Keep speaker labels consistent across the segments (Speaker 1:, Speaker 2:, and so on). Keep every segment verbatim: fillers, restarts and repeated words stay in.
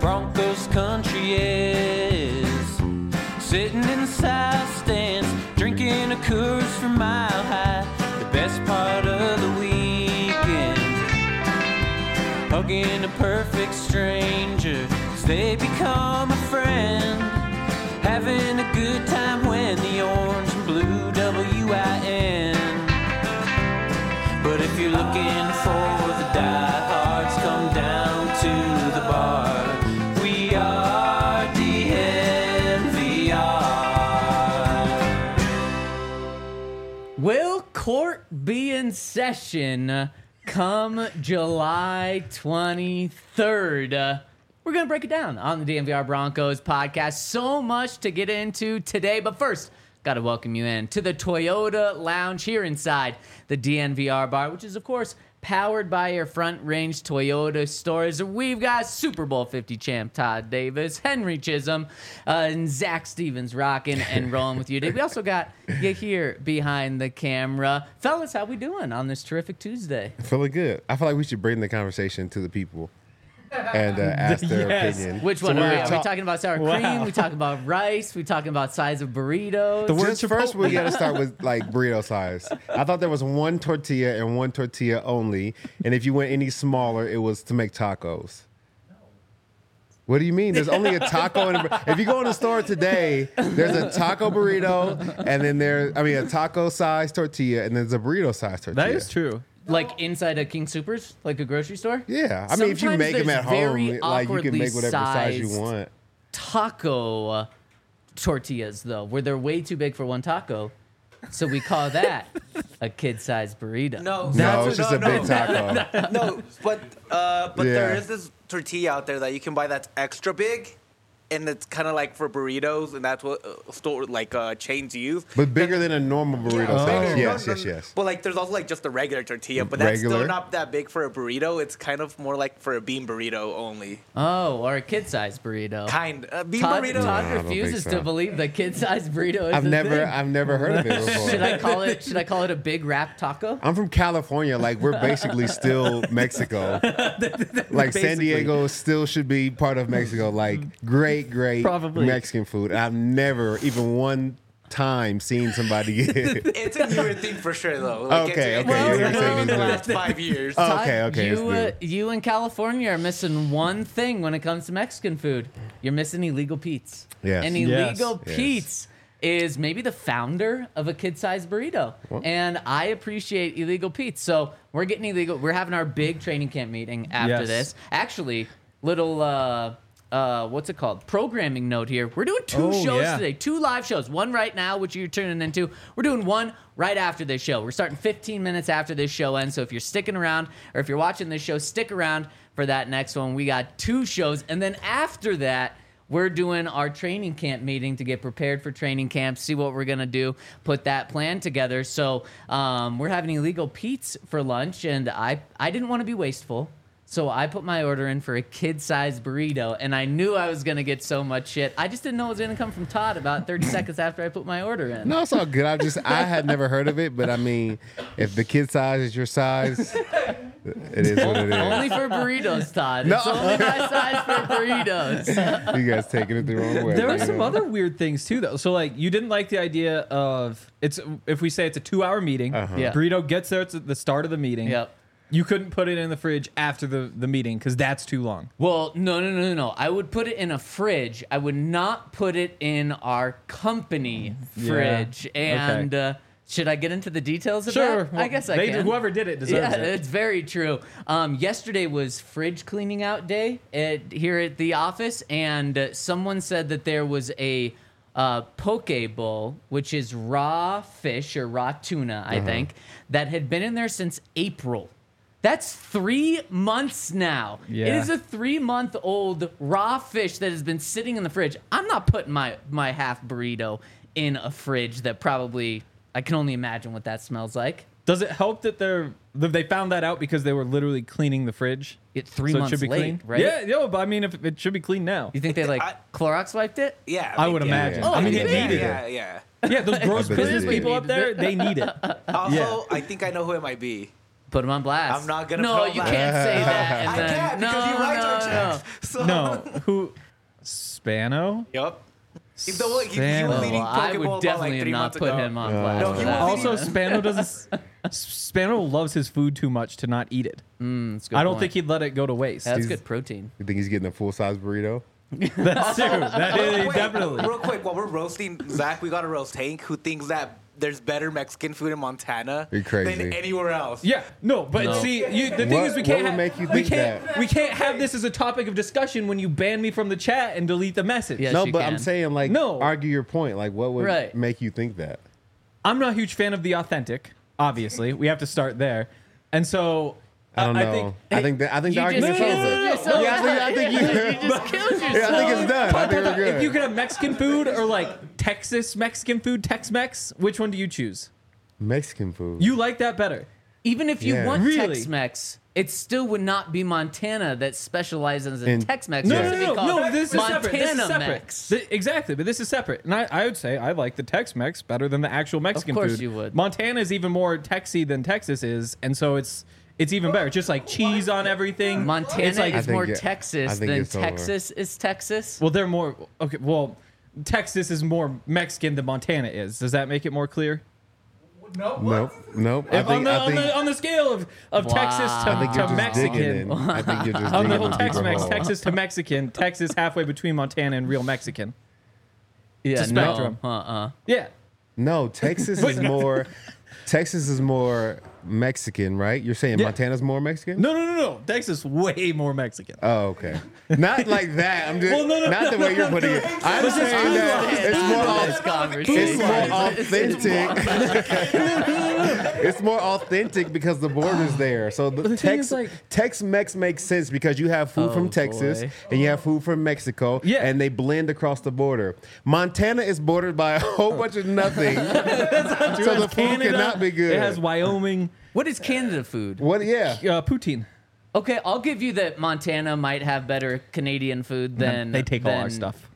Speaker 1: Broncos country is. Sitting in the south stands, drinking a Coors from Mile High. The best part of the weekend, hugging a perfect stranger as they become a friend. Having a good time when the orange and blue W I N. But if you're looking for the diehards, come down to the bar. We are D N V R.
Speaker 2: Will court be in session come July twenty-third? Uh, we're going to break it down on the D N V R Broncos podcast. So much to get into today. But first, got to welcome you in to the Toyota Lounge here inside the D N V R bar, which is, of course, powered by your Front Range Toyota stores. We've got Super Bowl fifty champ Todd Davis, Henry Chisholm, uh, and Zach Stevens rocking and rolling with you today. We also got you here behind the camera. Fellas, how we doing on this terrific Tuesday?
Speaker 3: Feeling good. I feel like we should bring the conversation to the people and uh, ask their
Speaker 4: Yes.
Speaker 3: opinion.
Speaker 2: Which
Speaker 3: So
Speaker 2: one are we?
Speaker 3: we're
Speaker 2: Are we
Speaker 3: ta-
Speaker 2: talking about sour
Speaker 4: Wow.
Speaker 2: cream? We talking about rice? We talking about size of burritos?
Speaker 4: The word
Speaker 3: Just first,
Speaker 4: Chipotle.
Speaker 3: we got to start with like burrito size. I thought there was one tortilla and one tortilla only, and if you went any smaller, it was to make tacos. What do you mean? There's only a taco. And a, if you go in the store today, there's a taco burrito, and then there, I mean, a taco size tortilla, and there's a burrito size tortilla.
Speaker 4: That is true.
Speaker 2: Like inside a King Soopers, like a grocery store?
Speaker 3: Yeah, I mean, if you
Speaker 2: Sometimes
Speaker 3: make them
Speaker 2: there's
Speaker 3: at home,
Speaker 2: very
Speaker 3: like you can make whatever size you
Speaker 2: awkwardly
Speaker 3: want.
Speaker 2: Taco uh, tortillas, though, where they're way too big for one taco. So we call that a kid-sized burrito.
Speaker 5: No,
Speaker 3: No, it's just
Speaker 5: no,
Speaker 3: a big
Speaker 5: no.
Speaker 3: taco.
Speaker 5: No, but uh, but there
Speaker 3: Yeah.
Speaker 5: is this tortilla out there that you can buy that's extra big, and it's kind of like for burritos, and that's what uh, store like uh, chains use.
Speaker 3: But bigger than a normal burrito
Speaker 5: Yeah,
Speaker 3: size.
Speaker 5: bigger.
Speaker 3: Yes,
Speaker 5: No,
Speaker 3: yes,
Speaker 5: no,
Speaker 3: yes.
Speaker 5: But like, there's also like just the regular tortilla, but that's
Speaker 3: Regular?
Speaker 5: still not that big for a burrito. It's kind of more like for a bean burrito only.
Speaker 2: Oh, or a kid-sized burrito.
Speaker 5: Kind uh, bean
Speaker 2: Todd,
Speaker 5: burrito.
Speaker 2: Todd
Speaker 3: No, I don't think
Speaker 2: refuses
Speaker 3: so.
Speaker 2: to believe the kid-sized burrito is
Speaker 3: I've
Speaker 2: a
Speaker 3: never,
Speaker 2: thing.
Speaker 3: I've never heard of it before.
Speaker 2: Should I call it? Should I call it a big wrap taco?
Speaker 3: I'm from California. Like, we're basically still Mexico. Like, San
Speaker 4: Basically.
Speaker 3: Diego still should be part of Mexico. Like, great, great
Speaker 4: Probably.
Speaker 3: Mexican food. And I've never, even one time, seen somebody get it.
Speaker 5: It's a newer thing for sure, though. Like,
Speaker 3: Okay,
Speaker 5: it's,
Speaker 3: okay,
Speaker 5: It's,
Speaker 2: you're
Speaker 5: it's
Speaker 2: saying
Speaker 5: like in the
Speaker 2: it's
Speaker 5: last five years.
Speaker 3: Oh,
Speaker 2: Todd,
Speaker 3: okay, okay,
Speaker 2: You, uh,
Speaker 3: it's
Speaker 2: you in California are missing one thing when it comes to Mexican food. You're missing illegal Pete's.
Speaker 3: Yes.
Speaker 2: And
Speaker 4: Yes.
Speaker 2: illegal
Speaker 3: Yes.
Speaker 2: Pete's is maybe the founder of a kid-sized burrito. And I appreciate Illegal Pete's. So we're getting illegal. We're having our big training camp meeting after
Speaker 4: Yes.
Speaker 2: this. Actually, little... Uh, uh, what's it called? Programming note here. We're doing two
Speaker 4: Oh,
Speaker 2: shows
Speaker 4: yeah.
Speaker 2: today, two live shows. One right now, which you're tuning into. We're doing one right after this show. We're starting fifteen minutes after this show ends. So if you're sticking around, or if you're watching this show, stick around for that next one. We got two shows, and then after that, we're doing our training camp meeting to get prepared for training camp, see what we're going to do, put that plan together. So um, we're having Illegal Pete's for lunch, and I, I didn't want to be wasteful. So I put my order in for a kid-sized burrito, and I knew I was going to get so much shit. I just didn't know it was going to come from Todd about thirty seconds after I put my order in.
Speaker 3: No, it's all good. I just, I had never heard of it, but I mean, if the kid size is your size, it is what it is.
Speaker 2: Only for burritos, Todd.
Speaker 3: No.
Speaker 2: It's only my size for burritos.
Speaker 3: You guys taking it the wrong way.
Speaker 4: There are
Speaker 3: you
Speaker 4: some
Speaker 3: know?
Speaker 4: other weird things too, though. So, like, you didn't like the idea of it's if we say it's a two-hour meeting.
Speaker 3: Uh-huh.
Speaker 2: Yeah.
Speaker 4: Burrito gets there at the start of the meeting.
Speaker 2: Yep.
Speaker 4: You couldn't put it in the fridge after the, the meeting because that's too long.
Speaker 2: Well, no, no, no, no, no. I would put it in a fridge. I would not put it in our company
Speaker 4: Yeah.
Speaker 2: fridge. And
Speaker 4: Okay.
Speaker 2: uh, should I get into the details of
Speaker 4: Sure.
Speaker 2: that? I guess I
Speaker 4: they,
Speaker 2: can.
Speaker 4: Whoever did it deserves
Speaker 2: Yeah,
Speaker 4: it.
Speaker 2: it's very true. Um, yesterday was fridge cleaning out day at, here at the office, and uh, someone said that there was a uh, poke bowl, which is raw fish or raw tuna, I think, that had been in there since April. That's three months now. It
Speaker 4: Yeah.
Speaker 2: is a three-month-old raw fish that has been sitting in the fridge. I'm not putting my, my half burrito in a fridge that probably, I can only imagine what that smells like.
Speaker 4: Does it help that they're that they found that out because they were literally cleaning the fridge?
Speaker 2: It three
Speaker 4: so
Speaker 2: months
Speaker 4: it should be
Speaker 2: late,
Speaker 4: clean,
Speaker 2: right?
Speaker 4: Yeah, no, but I mean, if it should be clean now.
Speaker 2: You think they like
Speaker 5: I-
Speaker 2: Clorox wiped it?
Speaker 5: Yeah,
Speaker 4: I
Speaker 5: like,
Speaker 4: would
Speaker 5: yeah.
Speaker 4: imagine.
Speaker 2: Oh,
Speaker 4: I mean,
Speaker 2: yeah,
Speaker 4: it
Speaker 2: yeah,
Speaker 4: needed
Speaker 5: Yeah,
Speaker 4: it.
Speaker 5: yeah.
Speaker 4: Yeah, those gross
Speaker 3: bet
Speaker 4: business
Speaker 3: they
Speaker 4: people
Speaker 2: did.
Speaker 4: up there, they need it.
Speaker 5: Also,
Speaker 4: Yeah.
Speaker 5: I think I know who it might be.
Speaker 2: Put him on blast.
Speaker 5: I'm not gonna
Speaker 2: No,
Speaker 5: put him on
Speaker 2: you
Speaker 5: blast.
Speaker 2: can't say that. And
Speaker 5: I
Speaker 2: then,
Speaker 5: can't
Speaker 2: no,
Speaker 5: because he writes
Speaker 2: no,
Speaker 5: our
Speaker 2: no.
Speaker 5: checks. So,
Speaker 4: No, who? Spano.
Speaker 5: Yep. He's the one. He, he
Speaker 4: Spano.
Speaker 5: was
Speaker 2: Oh,
Speaker 5: leading
Speaker 2: well, I
Speaker 5: Pokeball
Speaker 2: would
Speaker 5: about,
Speaker 2: definitely
Speaker 5: like three
Speaker 2: not
Speaker 5: months
Speaker 2: put
Speaker 5: ago.
Speaker 2: him on
Speaker 3: Uh,
Speaker 2: blast.
Speaker 3: No,
Speaker 2: for
Speaker 3: he
Speaker 2: that.
Speaker 3: was
Speaker 4: Also,
Speaker 2: either.
Speaker 4: Spano doesn't. Spano loves his food too much to not eat it.
Speaker 2: Mm, that's a good
Speaker 4: I don't
Speaker 2: point.
Speaker 4: think he'd let it go to waste.
Speaker 2: That's
Speaker 3: He's-
Speaker 2: good protein.
Speaker 3: You think he's getting a full size burrito?
Speaker 4: That's true. That is
Speaker 5: Wait,
Speaker 4: definitely.
Speaker 5: Real quick, while we're roasting Zach, we got to roast Hank, who thinks that there's better Mexican food in Montana
Speaker 3: You're crazy.
Speaker 5: than anywhere else.
Speaker 4: Yeah, no, but
Speaker 2: No.
Speaker 4: see, you, the thing
Speaker 3: What-
Speaker 4: is, we
Speaker 3: what
Speaker 4: can't
Speaker 3: would
Speaker 4: ha-
Speaker 3: make you
Speaker 4: we
Speaker 3: think
Speaker 4: can't
Speaker 3: that?
Speaker 4: we can't have this as a topic of discussion when you ban me from the chat and delete the message.
Speaker 2: Yes,
Speaker 3: no,
Speaker 2: you
Speaker 3: but
Speaker 2: can.
Speaker 3: I'm saying like
Speaker 4: No.
Speaker 3: argue your point. Like what would
Speaker 2: Right.
Speaker 3: make you think that?
Speaker 4: I'm not a huge fan of the authentic. Obviously, we have to start there, and so
Speaker 3: I don't know.
Speaker 4: I think
Speaker 3: I think that I think the
Speaker 2: You just
Speaker 3: argument's
Speaker 2: canceled
Speaker 3: over.
Speaker 2: yourself.
Speaker 3: Yeah, I think, I think you.
Speaker 2: You just killed yourself.
Speaker 3: Yeah, I think it's done. I
Speaker 4: But-
Speaker 3: think
Speaker 4: but
Speaker 3: we're
Speaker 4: if
Speaker 3: good.
Speaker 4: you could have Mexican food or like Texas Mexican food, Tex-Mex, which one do you choose?
Speaker 3: Mexican food.
Speaker 4: You like that better?
Speaker 2: Even if you
Speaker 3: Yeah.
Speaker 2: want
Speaker 4: Really?
Speaker 2: Tex-Mex, it still would not be Montana that specializes in,
Speaker 3: In-
Speaker 2: Tex-Mex.
Speaker 4: No,
Speaker 2: It
Speaker 4: no,
Speaker 2: has to be
Speaker 4: no, no,
Speaker 2: called
Speaker 4: no. This is separate. This is
Speaker 2: Montana
Speaker 4: separate.
Speaker 2: Mex.
Speaker 4: Th- exactly, but this is separate. And I, I would say I like the Tex-Mex better than the actual Mexican
Speaker 2: course
Speaker 4: food.
Speaker 2: you would.
Speaker 4: Montana is even more Texy than Texas is, and so it's it's even better. It's just like cheese on everything.
Speaker 2: Montana
Speaker 4: It's like,
Speaker 3: I
Speaker 2: is
Speaker 3: think
Speaker 2: more
Speaker 3: it- I
Speaker 2: Texas
Speaker 3: think
Speaker 2: than
Speaker 3: it's over.
Speaker 2: Texas is Texas.
Speaker 4: well, they're more okay. Well, Texas is more Mexican than Montana is. Does that make it more clear?
Speaker 3: Nope. Nope. I
Speaker 4: If
Speaker 3: think
Speaker 4: on, the,
Speaker 3: I
Speaker 4: on,
Speaker 3: think
Speaker 4: the, on the scale of, of
Speaker 2: Wow.
Speaker 4: Texas to,
Speaker 3: I think you're
Speaker 4: to
Speaker 3: just digging
Speaker 4: Mexican,
Speaker 3: in. I think you're just
Speaker 4: on
Speaker 3: digging
Speaker 4: the whole
Speaker 3: a deeper
Speaker 4: Tex-Mex,
Speaker 3: hole.
Speaker 4: Texas to Mexican, Texas halfway between Montana and real Mexican.
Speaker 2: Yeah,
Speaker 4: a spectrum.
Speaker 2: no. Uh-uh.
Speaker 4: Yeah.
Speaker 3: No, Texas is more. Texas is more Mexican, right? You're saying
Speaker 4: Yeah.
Speaker 3: Montana's more Mexican?
Speaker 4: No, no, no, no. Texas way more Mexican.
Speaker 3: Oh, okay. Not like that. I'm just
Speaker 4: Well, no, no,
Speaker 3: not the way you're putting it. I'm
Speaker 4: But just
Speaker 3: saying that it's more
Speaker 2: This
Speaker 3: au-
Speaker 2: conversation.
Speaker 3: it's more authentic. It's more authentic because the border's there. So the,
Speaker 4: the thing
Speaker 3: Tex
Speaker 4: is, like-
Speaker 3: Tex-Mex makes sense because you have food
Speaker 2: Oh,
Speaker 3: from Texas
Speaker 2: boy.
Speaker 3: and you have food from Mexico,
Speaker 4: Yeah.
Speaker 3: and they blend across the border. Montana is bordered by a whole bunch of nothing, so the food cannot be good.
Speaker 4: It has Wyoming,
Speaker 2: What is Canada food?
Speaker 3: What? Yeah.
Speaker 4: uh, poutine.
Speaker 2: Okay, I'll give you that Montana might have better Canadian food than
Speaker 4: they take all our
Speaker 2: than-
Speaker 4: stuff.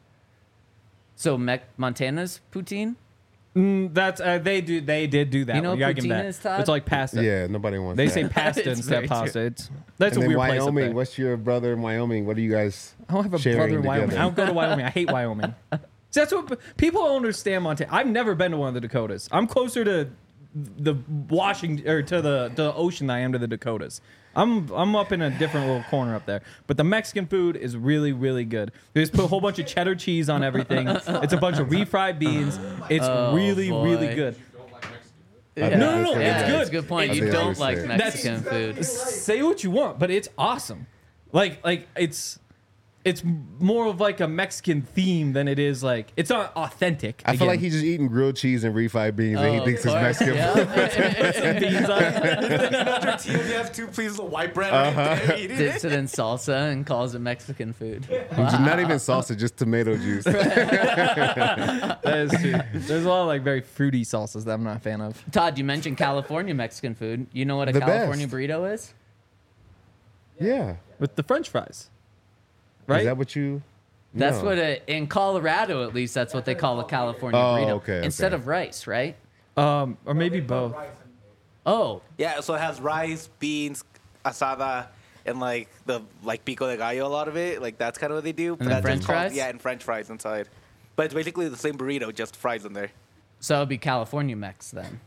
Speaker 2: So Mec- Montana's poutine?
Speaker 4: Mm, that's uh, they do. They did do that.
Speaker 2: You know
Speaker 4: one. gotta give them
Speaker 2: poutine
Speaker 4: that.
Speaker 2: is, Todd?
Speaker 4: It's like pasta.
Speaker 3: Yeah. Nobody wants.
Speaker 4: They
Speaker 3: that.
Speaker 4: say pasta
Speaker 2: It's
Speaker 4: instead
Speaker 2: very
Speaker 4: of pasta.
Speaker 2: true.
Speaker 4: It's that's
Speaker 3: And
Speaker 4: a
Speaker 3: then
Speaker 4: weird place up
Speaker 3: Wyoming.
Speaker 4: there.
Speaker 3: What's your brother in Wyoming? What are you guys?
Speaker 4: I don't have a
Speaker 3: sharing
Speaker 4: brother in Wyoming.
Speaker 3: together?
Speaker 4: I don't go to Wyoming. I hate Wyoming. See, that's what people don't understand Montana. I've never been to one of the Dakotas. I'm closer to the Washington or to the to the ocean than I am to the Dakotas. I'm I'm up in a different little corner up there. But the Mexican food is really really good. They just put a whole bunch of cheddar cheese on everything. It's a bunch of refried beans. It's
Speaker 2: Oh,
Speaker 4: really
Speaker 2: boy.
Speaker 4: really good.
Speaker 2: Yeah.
Speaker 3: think
Speaker 4: No, no, no,
Speaker 3: that's what
Speaker 2: Yeah,
Speaker 4: it's
Speaker 3: it
Speaker 4: good.
Speaker 3: is.
Speaker 2: It's a good point.
Speaker 3: I
Speaker 2: You
Speaker 3: think that's
Speaker 2: don't
Speaker 3: what
Speaker 2: like
Speaker 3: it is.
Speaker 2: Mexican food.
Speaker 4: Say what you want, but it's awesome. Like like it's it's more of like a Mexican theme than it is like it's not authentic.
Speaker 3: I feel like
Speaker 4: again.
Speaker 3: he's just eating grilled cheese and refried beans, and he
Speaker 2: Oh,
Speaker 3: thinks
Speaker 2: of
Speaker 3: it's
Speaker 2: course,
Speaker 3: Mexican.
Speaker 2: yeah.
Speaker 4: beans on it.
Speaker 5: Tortillas, you have two pieces of white bread
Speaker 3: Uh-huh.
Speaker 5: right there. Eat it.
Speaker 2: Dips it in salsa and calls it Mexican food.
Speaker 3: Not even salsa, just tomato juice.
Speaker 4: That is true. There's a lot of like very fruity salsas that I'm not a fan of.
Speaker 2: Todd, you mentioned California Mexican food. You know what a
Speaker 3: The
Speaker 2: California
Speaker 3: best.
Speaker 2: burrito is?
Speaker 3: Yeah.
Speaker 4: With the French fries. Right?
Speaker 3: Is that what you?
Speaker 2: That's
Speaker 3: No.
Speaker 2: what a, in Colorado, at least, that's what they call a California
Speaker 3: Oh,
Speaker 2: burrito.
Speaker 3: okay,
Speaker 2: Instead
Speaker 3: okay.
Speaker 2: of rice, right?
Speaker 4: um or maybe both.
Speaker 2: Oh,
Speaker 5: Yeah, so it has rice, beans, asada, and like the like pico de gallo. A lot of it, like that's kind of what they do. But
Speaker 2: then
Speaker 5: that's
Speaker 2: French
Speaker 5: just called-
Speaker 2: fries?
Speaker 5: Yeah, and French fries inside. But it's basically the same burrito, just fries in there.
Speaker 2: so it would be California Mex then.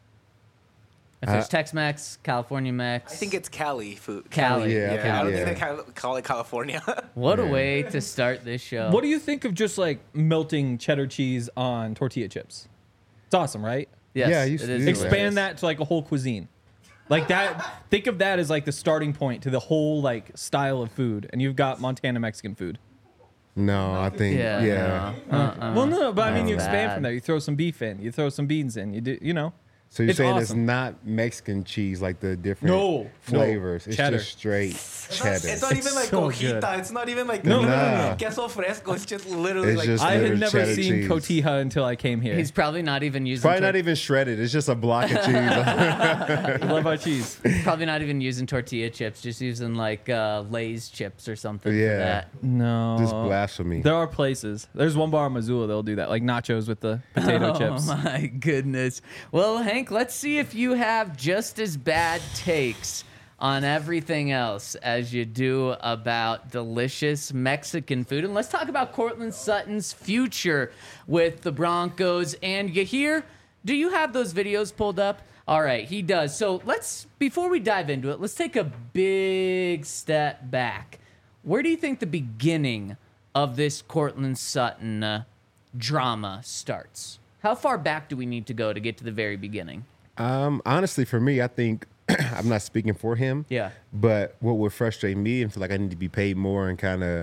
Speaker 2: If there's
Speaker 3: Uh,
Speaker 2: Tex-Mex, California Mex.
Speaker 5: I think it's Cali food.
Speaker 2: Cali.
Speaker 3: Yeah,
Speaker 5: Yeah,
Speaker 2: okay.
Speaker 5: I don't
Speaker 3: yeah.
Speaker 5: think they call- call it California.
Speaker 2: What a
Speaker 3: Yeah.
Speaker 2: way to start this show.
Speaker 4: What do you think of just like melting cheddar cheese on tortilla chips? It's awesome, right?
Speaker 2: Yes,
Speaker 3: Yeah, I used
Speaker 2: it
Speaker 3: to
Speaker 2: is
Speaker 3: do
Speaker 2: delicious.
Speaker 4: Expand that to like a whole cuisine. Like that think of that as like the starting point to the whole like style of food and you've got Montana Mexican food.
Speaker 3: No, I think
Speaker 2: Yeah.
Speaker 3: yeah.
Speaker 2: no. Uh-uh.
Speaker 4: Well, no, but I mean,
Speaker 2: That's
Speaker 4: you expand
Speaker 2: bad.
Speaker 4: from there. You throw some beef in. You throw some beans in. You do, you know.
Speaker 3: So you're
Speaker 4: It's
Speaker 3: saying it's
Speaker 4: awesome.
Speaker 3: not Mexican cheese like the different
Speaker 4: No, no.
Speaker 3: flavors. It's
Speaker 4: Cheddar.
Speaker 3: just straight.
Speaker 5: It's not,
Speaker 3: cheddar.
Speaker 5: it's not even like
Speaker 4: so
Speaker 5: cojita.
Speaker 4: good.
Speaker 5: It's not even like
Speaker 4: No,
Speaker 3: no, no.
Speaker 5: queso fresco. It's just literally
Speaker 3: It's
Speaker 5: like
Speaker 3: just-
Speaker 4: I had
Speaker 3: Cheddar
Speaker 4: never
Speaker 3: cheese.
Speaker 4: seen cotija until I came here.
Speaker 2: He's probably not even using.
Speaker 3: Probably
Speaker 2: tor-
Speaker 3: not even shredded. It's just a block of cheese.
Speaker 4: I love our cheese.
Speaker 2: Probably not even using tortilla chips. Just using like uh, Lay's chips or something.
Speaker 3: Yeah.
Speaker 2: For that.
Speaker 4: No.
Speaker 3: Just blasphemy.
Speaker 4: There are places. There's one bar in Missoula they'll do that, like nachos with the potato
Speaker 2: Oh
Speaker 4: chips.
Speaker 2: my goodness. Well, Hank, let's see if you have just as bad takes on everything else as you do about delicious Mexican food. And let's talk about Courtland Sutton's future with the Broncos. And you hear, do you have those videos pulled up? All right, he does. So let's, before we dive into it, let's take a big step back. Where do you think the beginning of this Courtland Sutton uh, drama starts? How far back do we need to go to get to the very beginning?
Speaker 3: Um, honestly, for me, I think I'm not speaking for him.
Speaker 2: Yeah.
Speaker 3: But what would frustrate me and feel like I need to be paid more and kind of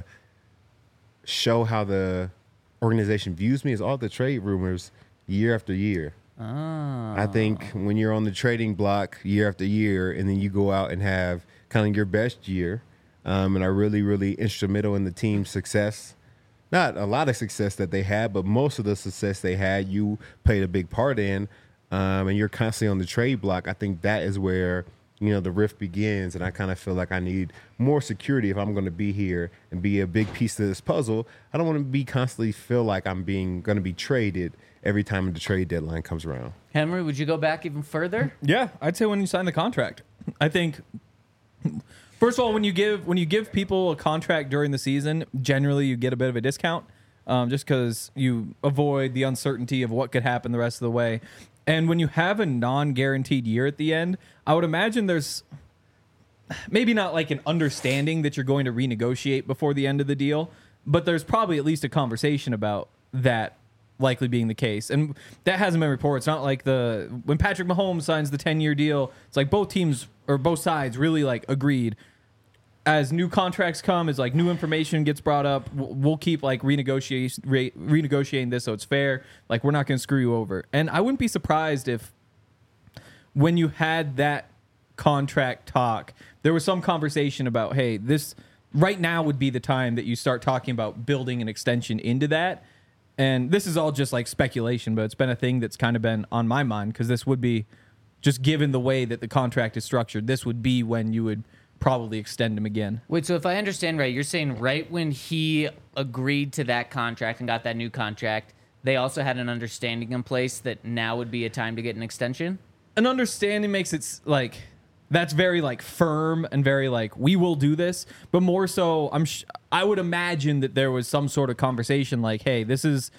Speaker 3: show how the organization views me is all the trade rumors year after year.
Speaker 2: Oh.
Speaker 3: I think when you're on the trading block year after year, and then you go out and have kind of your best year, um, and are really, really instrumental in the team's success. Not a lot of success that they had, but most of the success they had, you played a big part in, um, and you're constantly on the trade block. I think that is where, you know, the rift begins, and I kind of feel like I need more security if I'm going to be here and be a big piece of this puzzle. I don't want to be constantly feel like I'm being going to be traded every time the trade deadline comes around.
Speaker 2: Henry, would you go back even further?
Speaker 4: Yeah, I'd say when you sign the contract. I think first of all, when you give when you give people a contract during the season, generally you get a bit of a discount, um, just because you avoid the uncertainty of what could happen the rest of the way. And when you have a non-guaranteed year at the end, I would imagine there's maybe not like an understanding that you're going to renegotiate before the end of the deal, but there's probably at least a conversation about that likely being the case. And that hasn't been reported. It's not like the when Patrick Mahomes signs the ten-year deal, it's like both teams or both sides really like agreed. As new contracts come, as like new information gets brought up, we'll we'll keep like renegotiating re- renegotiating this so it's fair. Like we're not going to screw you over. And I wouldn't be surprised if when you had that contract talk, there was some conversation about, hey, this right now would be the time that you start talking about building an extension into that. And this is all just like speculation, but it's been a thing that's kind of been on my mind because this would be, just given the way that the contract is structured, this would be when you would probably extend him again.
Speaker 2: Wait, so if I understand right, you're saying right when he agreed to that contract and got that new contract, they also had an understanding in place that now would be a time to get an extension?
Speaker 4: An understanding makes it s- like that's very like firm and very like we will do this, but more so I'm sh- I would imagine that there was some sort of conversation like, hey, this is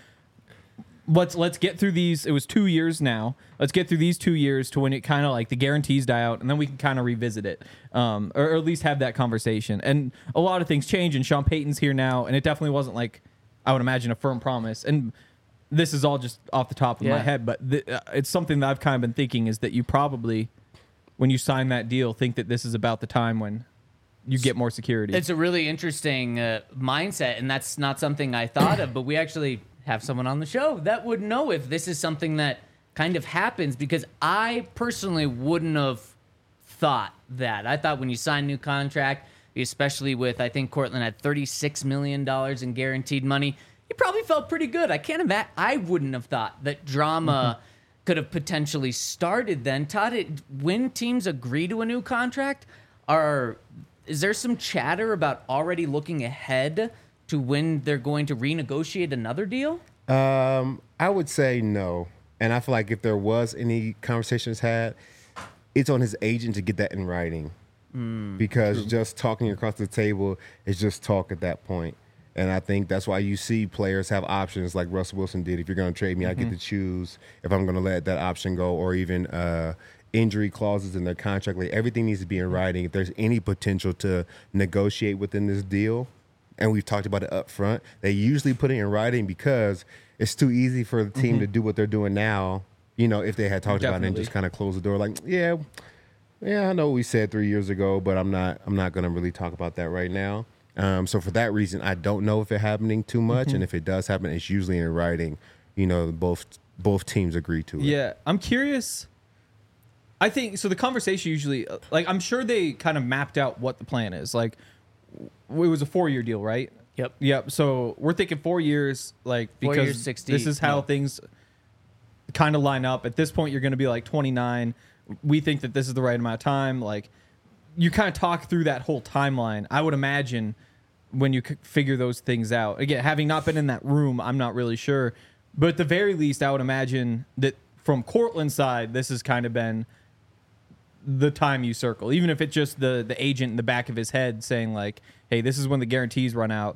Speaker 4: let's let's get through these. It was two years now. Let's get through these two years to when it kind of like the guarantees die out, and then we can kind of revisit it, um, or, or at least have that conversation. And a lot of things change, and Sean Payton's here now, and it definitely wasn't like I would imagine a firm promise. And this is all just off the top of my
Speaker 2: Yeah.
Speaker 4: head, but th- uh, it's something that I've kind of been thinking is that you probably, when you sign that deal, think that this is about the time when you get more security.
Speaker 2: It's a really interesting uh, mindset, and that's not something I thought of, but we actually have someone on the show that would know if this is something that kind of happens, because I personally wouldn't have thought that. I thought when you sign a new contract, especially with, I think Courtland had thirty-six million dollars in guaranteed money, you probably felt pretty good. I can't imagine. I wouldn't have thought that drama could have potentially started then. Todd, it, when teams agree to a new contract, are is there some chatter about already looking ahead to when they're going to renegotiate another deal?
Speaker 3: Um, I would say no. And I feel like if there was any conversations had, it's on his agent to get that in writing. Because just talking across the table is just talk at that point. And I think that's why you see players have options like Russell Wilson did. If you're going to trade me, I get to choose if I'm going to let that option go, or even uh, injury clauses in their contract. Like everything needs to be in writing. If there's any potential to negotiate within this deal, and we've talked about it up front, they usually put it in writing because it's too easy for the team to do what they're doing now. You know, if they had talked about it and
Speaker 4: Definitely.
Speaker 3: just kind of close the door, like, yeah, yeah, I know what we said three years ago, but I'm not, I'm not going to really talk about that right now. Um, so for that reason, I don't know if it's happening too much, and if it does happen, it's usually in writing. You know, both both teams agree to it.
Speaker 4: Yeah, I'm curious. I think so. The conversation usually, like, I'm sure they kind of mapped out what the plan is. Like, w- it was a four-year deal, right?
Speaker 2: Yep.
Speaker 4: Yep. So we're thinking four years, like,
Speaker 2: Four
Speaker 4: because
Speaker 2: years, sixty,
Speaker 4: this is how
Speaker 2: no.
Speaker 4: things kind of line up. At this point, you're going to be like twenty-nine. We think that this is the right amount of time. Like, you kind of talk through that whole timeline. I would imagine when you c- figure those things out. Again, having not been in that room, I'm not really sure. But at the very least, I would imagine that from Cortland's side, this has kind of been the time you circle, even if it's just the the agent in the back of his head saying like, hey, this is when the guarantees run out.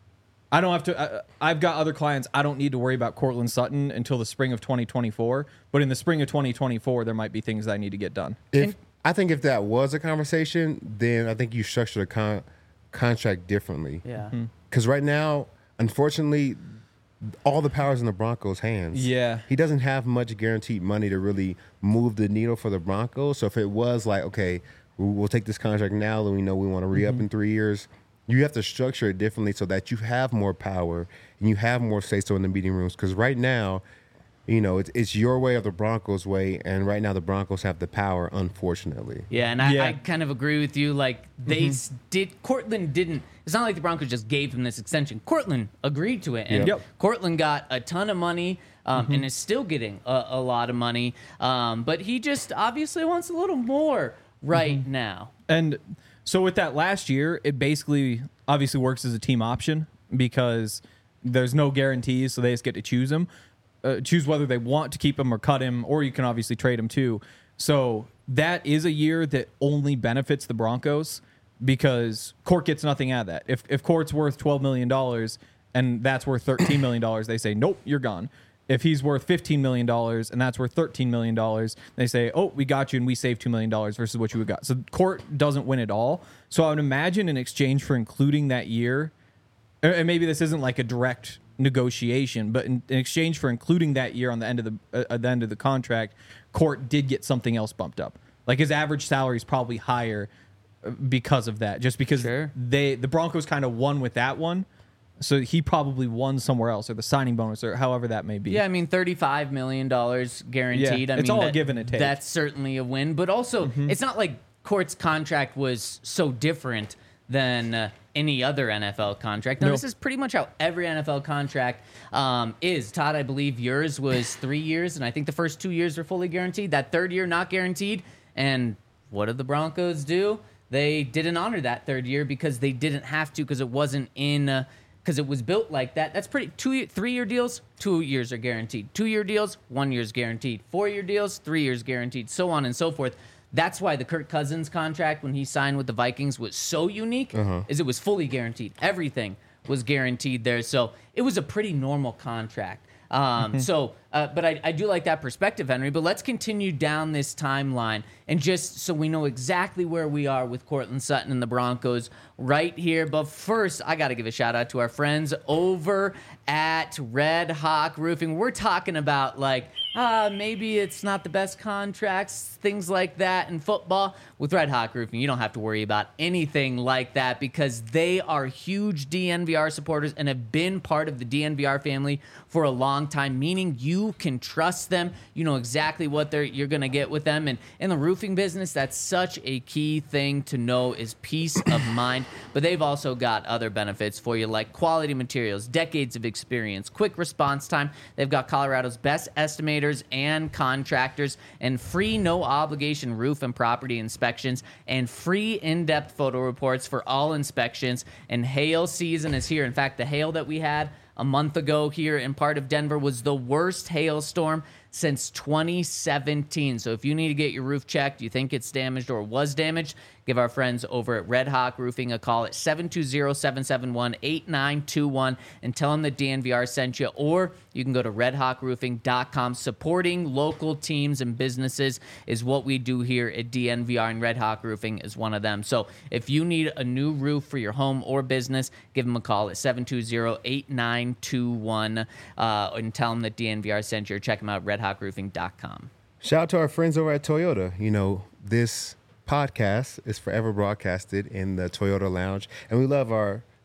Speaker 4: I don't have to, I, I've got other clients. I don't need to worry about Cortland Sutton until the spring of twenty twenty-four. But in the spring of twenty twenty-four, there might be things that I need to get done.
Speaker 3: If I think if that was a conversation, then I think you structure the con- contract differently.
Speaker 2: Yeah.
Speaker 3: Because right now, unfortunately, all the power's in the Broncos' hands.
Speaker 4: Yeah.
Speaker 3: He doesn't have much guaranteed money to really move the needle for the Broncos. So if it was like, okay, we'll we'll take this contract now and we know we want to re-up in three years, you have to structure it differently so that you have more power and you have more say-so in the meeting rooms. Because right now, you know, it's, it's your way or the Broncos' way, and right now the Broncos have the power, unfortunately.
Speaker 2: Yeah, and I,
Speaker 4: Yeah.
Speaker 2: I kind of agree with you. Like, they s did, Cortland didn't, it's not like the Broncos just gave him this extension. Cortland agreed to it. And
Speaker 4: Yep.
Speaker 2: Cortland got a ton of money um, and is still getting a, a lot of money. Um, but he just obviously wants a little more right now.
Speaker 4: And so with that last year, it basically obviously works as a team option because there's no guarantees, so they just get to choose him, uh, choose whether they want to keep him or cut him, or you can obviously trade him too. So that is a year that only benefits the Broncos because Court gets nothing out of that. If if Court's worth twelve million dollars and that's worth thirteen million dollars, they say, nope, you're gone. If he's worth fifteen million dollars and that's worth thirteen million dollars, they say, oh, we got you and we saved two million dollars versus what you would got. So Court doesn't win it all. So I would imagine in exchange for including that year, and maybe this isn't like a direct negotiation, but in, in exchange for including that year on the end of the uh, at the end of the contract, Court did get something else bumped up. Like his average salary is probably higher because of that, just because
Speaker 2: Sure.
Speaker 4: they the Broncos kind of won with that one. So he probably won somewhere else, or the signing bonus, or however that may be.
Speaker 2: Yeah, I mean, thirty-five million dollars guaranteed.
Speaker 4: Yeah,
Speaker 2: I
Speaker 4: it's
Speaker 2: mean,
Speaker 4: all a
Speaker 2: that-
Speaker 4: give and a take.
Speaker 2: That's certainly a win. But also, it's not like Court's contract was so different than uh, any other N F L contract. No,
Speaker 4: No.
Speaker 2: this is pretty much how every N F L contract um, is. Todd, I believe yours was three years, and I think the first two years were fully guaranteed. That third year, not guaranteed. And what did the Broncos do? They didn't honor that third year because they didn't have to because it wasn't in uh, – because it was built like that. That's pretty two, three-year deals, two years are guaranteed. Two-year deals, one year's guaranteed. Four-year deals, three years guaranteed, so on and so forth. That's why the Kirk Cousins contract when he signed with the Vikings was so unique, is it was fully guaranteed. Everything was guaranteed there. So it was a pretty normal contract. Um, so, uh, but I, I do like that perspective, Henry. But let's continue down this timeline and just so we know exactly where we are with Cortland Sutton and the Broncos right here. But first, I got to give a shout out to our friends over at Red Hawk Roofing. We're talking about like, uh, maybe it's not the best contracts, things like that in football. With Red Hawk Roofing, you don't have to worry about anything like that because they are huge D N V R supporters and have been part of the D N V R family for a long time, meaning you can trust them. You know exactly what they're you're going to get with them. And in the roofing business, that's such a key thing to know is peace of mind. But they've also got other benefits for you like quality materials, decades of experience, quick response time. They've got Colorado's best estimators and contractors and free no obligation roof and property inspections and free in-depth photo reports for all inspections. And hail season is here. In fact, the hail that we had a month ago here in part of Denver was the worst hailstorm since twenty seventeen. So if you need to get your roof checked, you think it's damaged or was damaged, give our friends over at Red Hawk Roofing a call at seven two zero, seven seven one, eight nine two one and tell them that D N V R sent you, or you can go to red hawk roofing dot com. Supporting local teams and businesses is what we do here at D N V R, and Red Hawk Roofing is one of them. So if you need a new roof for your home or business, give them a call at seven two zero, eight nine two one uh, and tell them that D N V R sent you, or check them out at red hawk roofing dot com.
Speaker 3: Shout out to our friends over at Toyota. You know, this podcast is forever broadcasted in the Toyota Lounge, and we love our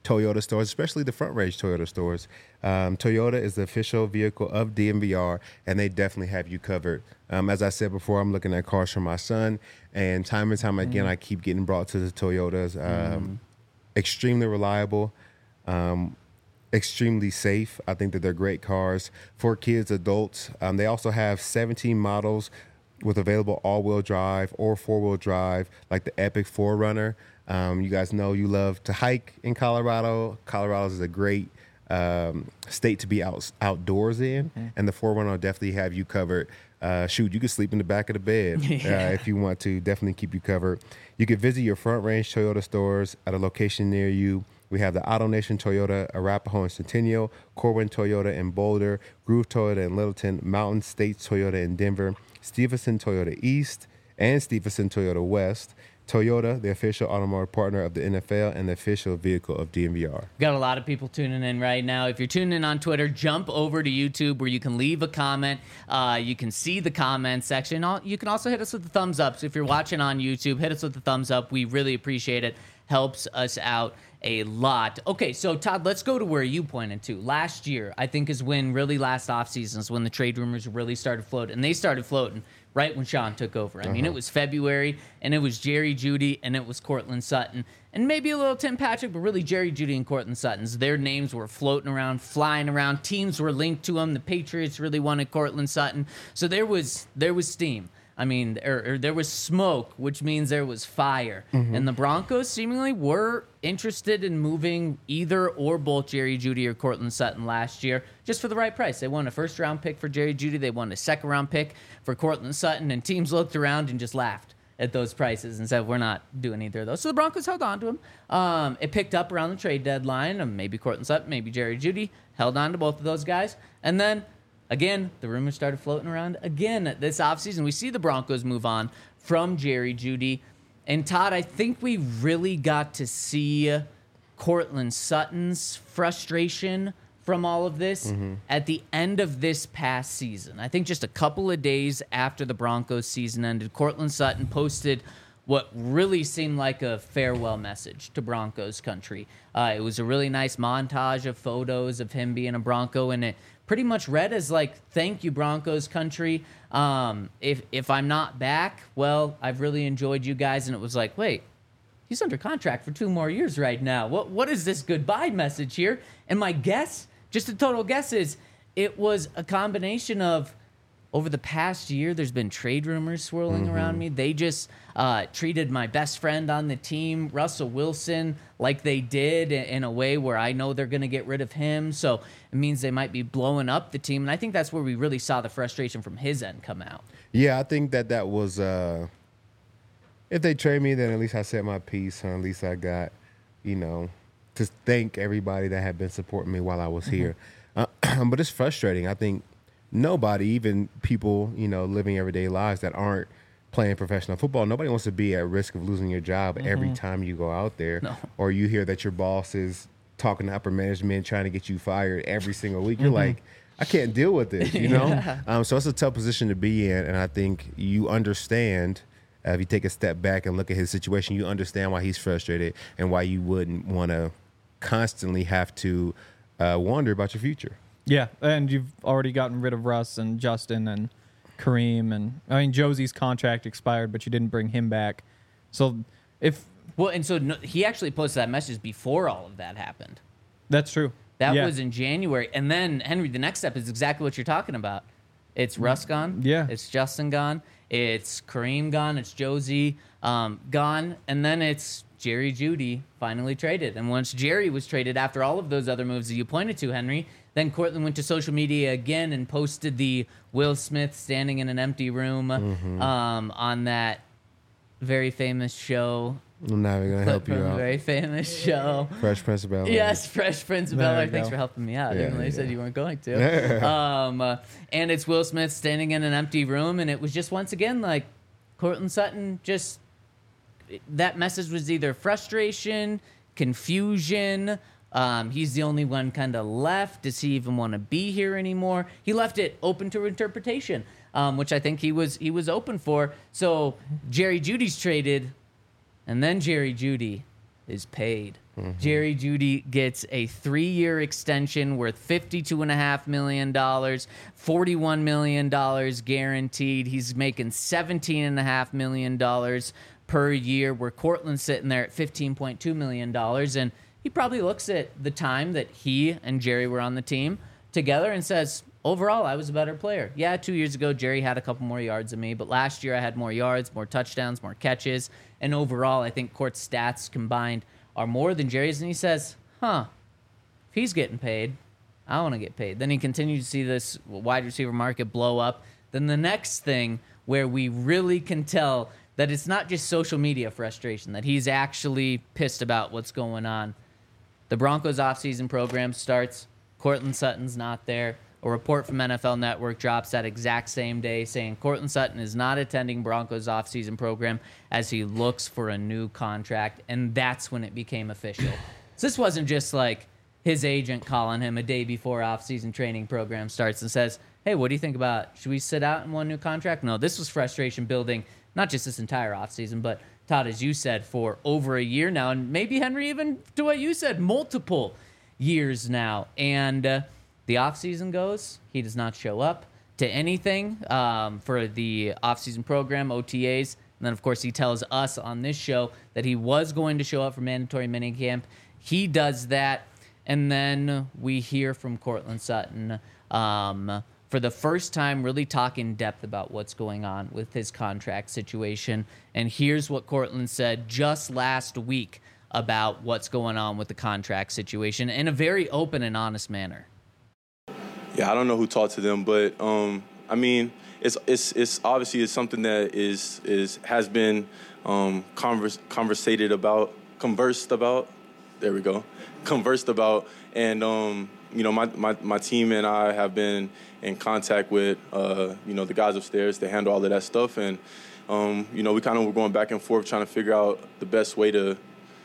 Speaker 3: Toyota stores, especially the Front Range Toyota stores. Um, Toyota is the official vehicle of D M V R, and they definitely have you covered. Um, as I said before, I'm looking at cars for my son, and time and time again, mm. I keep getting brought to the Toyotas. Um, mm. Extremely reliable. Um, extremely safe. I think that they're great cars for kids, adults. Um, they also have seventeen models with available all-wheel drive or four-wheel drive, like the Epic four runner. Um, you guys know you love to hike in Colorado. Colorado is a great um, state to be out, outdoors in, mm-hmm. and the four runner will definitely have you covered. Uh, shoot, you can sleep in the back of the bed yeah. uh, if you want to. Definitely keep you covered. You can visit your Front Range Toyota stores at a location near you. We have the AutoNation Toyota, Arapahoe and Centennial, Corwin Toyota in Boulder, Groove Toyota in Littleton, Mountain States Toyota in Denver, Stevenson Toyota East, and Stevenson Toyota West. Toyota, the official automotive partner of the N F L and the official vehicle of D M V R.
Speaker 2: Got a lot of people tuning in right now. If you're tuning in on Twitter, jump over to YouTube where you can leave a comment. Uh, you can see the comment section. You can also hit us with the thumbs up. So if you're watching on YouTube, hit us with the thumbs up. We really appreciate it. Helps us out a lot. Okay, so Todd, let's go to where you pointed to. Last year, I think, is when really last offseason is when the trade rumors really started floating. And they started floating right when Sean took over. I uh-huh. mean, it was February, and it was Jerry Jeudy, and it was Courtland Sutton, and maybe a little Tim Patrick, but really Jerry Jeudy and Courtland Sutton's. Their names were floating around, flying around. Teams were linked to them. The Patriots really wanted Courtland Sutton. So there was there was steam. I mean, or, or there was smoke, which means there was fire. Mm-hmm. And the Broncos seemingly were interested in moving either or both Jerry Jeudy or Courtland Sutton last year, just for the right price. They wanted a first-round pick for Jerry Jeudy. They wanted a second-round pick for Courtland Sutton. And teams looked around and just laughed at those prices and said, we're not doing either of those. So the Broncos held on to him. Um, it picked up around the trade deadline. Um, maybe Courtland Sutton, maybe Jerry Jeudy. Held on to both of those guys. And then again, the rumors started floating around again this offseason. We see the Broncos move on from Jerry Jeudy. And Todd, I think we really got to see Courtland Sutton's frustration from all of this mm-hmm. at the end of this past season. I think just a couple of days after the Broncos season ended, Courtland Sutton posted what really seemed like a farewell message to Broncos country. Uh, it was a really nice montage of photos of him being a Bronco, and it pretty much read as like, thank you, Broncos country. Um, if if I'm not back, well, I've really enjoyed you guys. And it was like, wait, he's under contract for two more years right now. What What is this goodbye message here? And my guess, just a total guess, is it was a combination of, over the past year, there's been trade rumors swirling mm-hmm. around me. They just uh, treated my best friend on the team, Russell Wilson, like they did in a way where I know they're going to get rid of him. So it means they might be blowing up the team. And I think that's where we really saw the frustration from his end come out.
Speaker 3: Yeah, I think that that was, uh, if they trade me, then at least I said my piece. And at least I got, you know, to thank everybody that had been supporting me while I was mm-hmm. here. Uh, but it's frustrating. I think nobody, even people, you know, living everyday lives that aren't playing professional football, nobody wants to be at risk of losing your job mm-hmm. every time you go out there. No. Or you hear that your boss is talking to upper management, trying to get you fired every single week. You're mm-hmm. like, I can't deal with this, you know? yeah. um, so it's a tough position to be in, and I think you understand, uh, if you take a step back and look at his situation, you understand why he's frustrated and why you wouldn't want to constantly have to uh, wonder about your future.
Speaker 4: Yeah, and you've already gotten rid of Russ and Justin and Kareem, and I mean Josie's contract expired, but you didn't bring him back. So if
Speaker 2: well, and so no, he actually posted that message before all of that happened.
Speaker 4: That's true.
Speaker 2: That
Speaker 4: yeah.
Speaker 2: was in January, and then Henry, the next step is exactly what you're talking about. It's Russ gone.
Speaker 4: Yeah.
Speaker 2: It's Justin gone. It's Kareem gone. It's Josie um, gone, and then it's Jerry Jeudy finally traded. And once Jerry was traded, after all of those other moves that you pointed to, Henry, then Courtland went to social media again and posted the Will Smith standing in an empty room mm-hmm. um, on that very famous show.
Speaker 3: I'm not even going to help you out.
Speaker 2: Very famous show.
Speaker 3: Fresh Prince of Bel-Air.
Speaker 2: Yes, Fresh Prince of Bel-Air. Thanks for helping me out, yeah, even though you yeah. said you weren't going to. um, uh, and it's Will Smith standing in an empty room, and it was just once again like Courtland Sutton just, that message was either frustration, confusion. Um, he's the only one kind of left. Does he even want to be here anymore? He left it open to interpretation, um, which I think he was he was open for. So Jerry Jeudy's traded, and then Jerry Jeudy is paid. Mm-hmm. Jerry Jeudy gets a three-year extension worth fifty-two point five million dollars, forty-one million dollars guaranteed. He's making seventeen point five million dollars per year, where Courtland's sitting there at fifteen point two million dollars. And he probably looks at the time that he and Jerry were on the team together and says, overall, I was a better player. Yeah, two years ago, Jerry had a couple more yards than me, but last year I had more yards, more touchdowns, more catches, and overall, I think Court's stats combined are more than Jerry's. And he says, huh, if he's getting paid, I want to get paid. Then he continues to see this wide receiver market blow up. Then the next thing where we really can tell that it's not just social media frustration, that he's actually pissed about what's going on. The Broncos offseason program starts. Courtland Sutton's not there. A report from N F L Network drops that exact same day saying Courtland Sutton is not attending Broncos offseason program as he looks for a new contract, and that's when it became official. So this wasn't just like his agent calling him a day before offseason training program starts and says, hey, what do you think about, should we sit out in one new contract? No, this was frustration building, not just this entire offseason, but Todd, as you said, for over a year now, and maybe, Henry, even to what you said, multiple years now. And uh, the offseason goes, he does not show up to anything um, for the offseason program, O T As. And then, of course, he tells us on this show that he was going to show up for mandatory minicamp. He does that. And then we hear from Courtland Sutton um, for the first time really talk in depth about what's going on with his contract situation. And here's what Courtland said just last week about what's going on with the contract situation in a very open and honest manner.
Speaker 6: Yeah, I don't know who talked to them, but um, I mean, it's it's it's obviously it's something that is is has been um, converse, conversated about, conversed about. There we go, conversed about, and um, you know, my, my my team and I have been in contact with uh, you know the guys upstairs to handle all of that stuff, and um, you know, we kind of were going back and forth trying to figure out the best way to,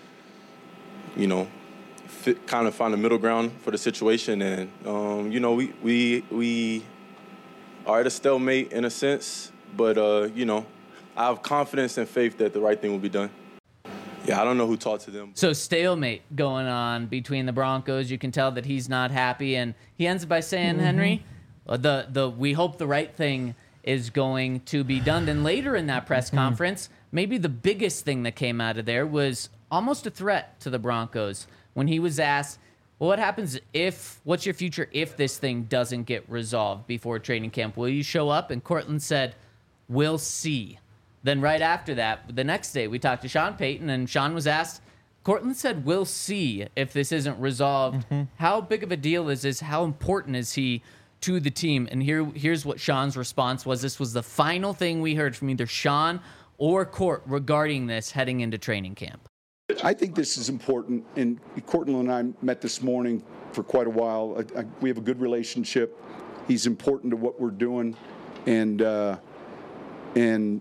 Speaker 6: you know, fit, kind of find a middle ground for the situation. And, um, you know, we, we we are at a stalemate in a sense, but, uh, you know, I have confidence and faith that the right thing will be done. Yeah, I don't know who talked to them.
Speaker 2: So stalemate going on between the Broncos. You can tell that he's not happy, and he ends by saying, mm-hmm. Henry, the the we hope the right thing is going to be done. And later in that press conference, maybe the biggest thing that came out of there was almost a threat to the Broncos when he was asked, well, what happens if, what's your future if this thing doesn't get resolved before training camp? Will you show up? And Courtland said, we'll see. Then right after that, the next day, we talked to Sean Payton, and Sean was asked, Courtland said, we'll see if this isn't resolved. Mm-hmm. How big of a deal is this? How important is he to the team? And here, here's what Sean's response was. This was the final thing we heard from either Sean or Court regarding this heading into training camp.
Speaker 7: I think this is important, and Courtland and I met this morning for quite a while. I, I, we have a good relationship. He's important to what we're doing, and uh, and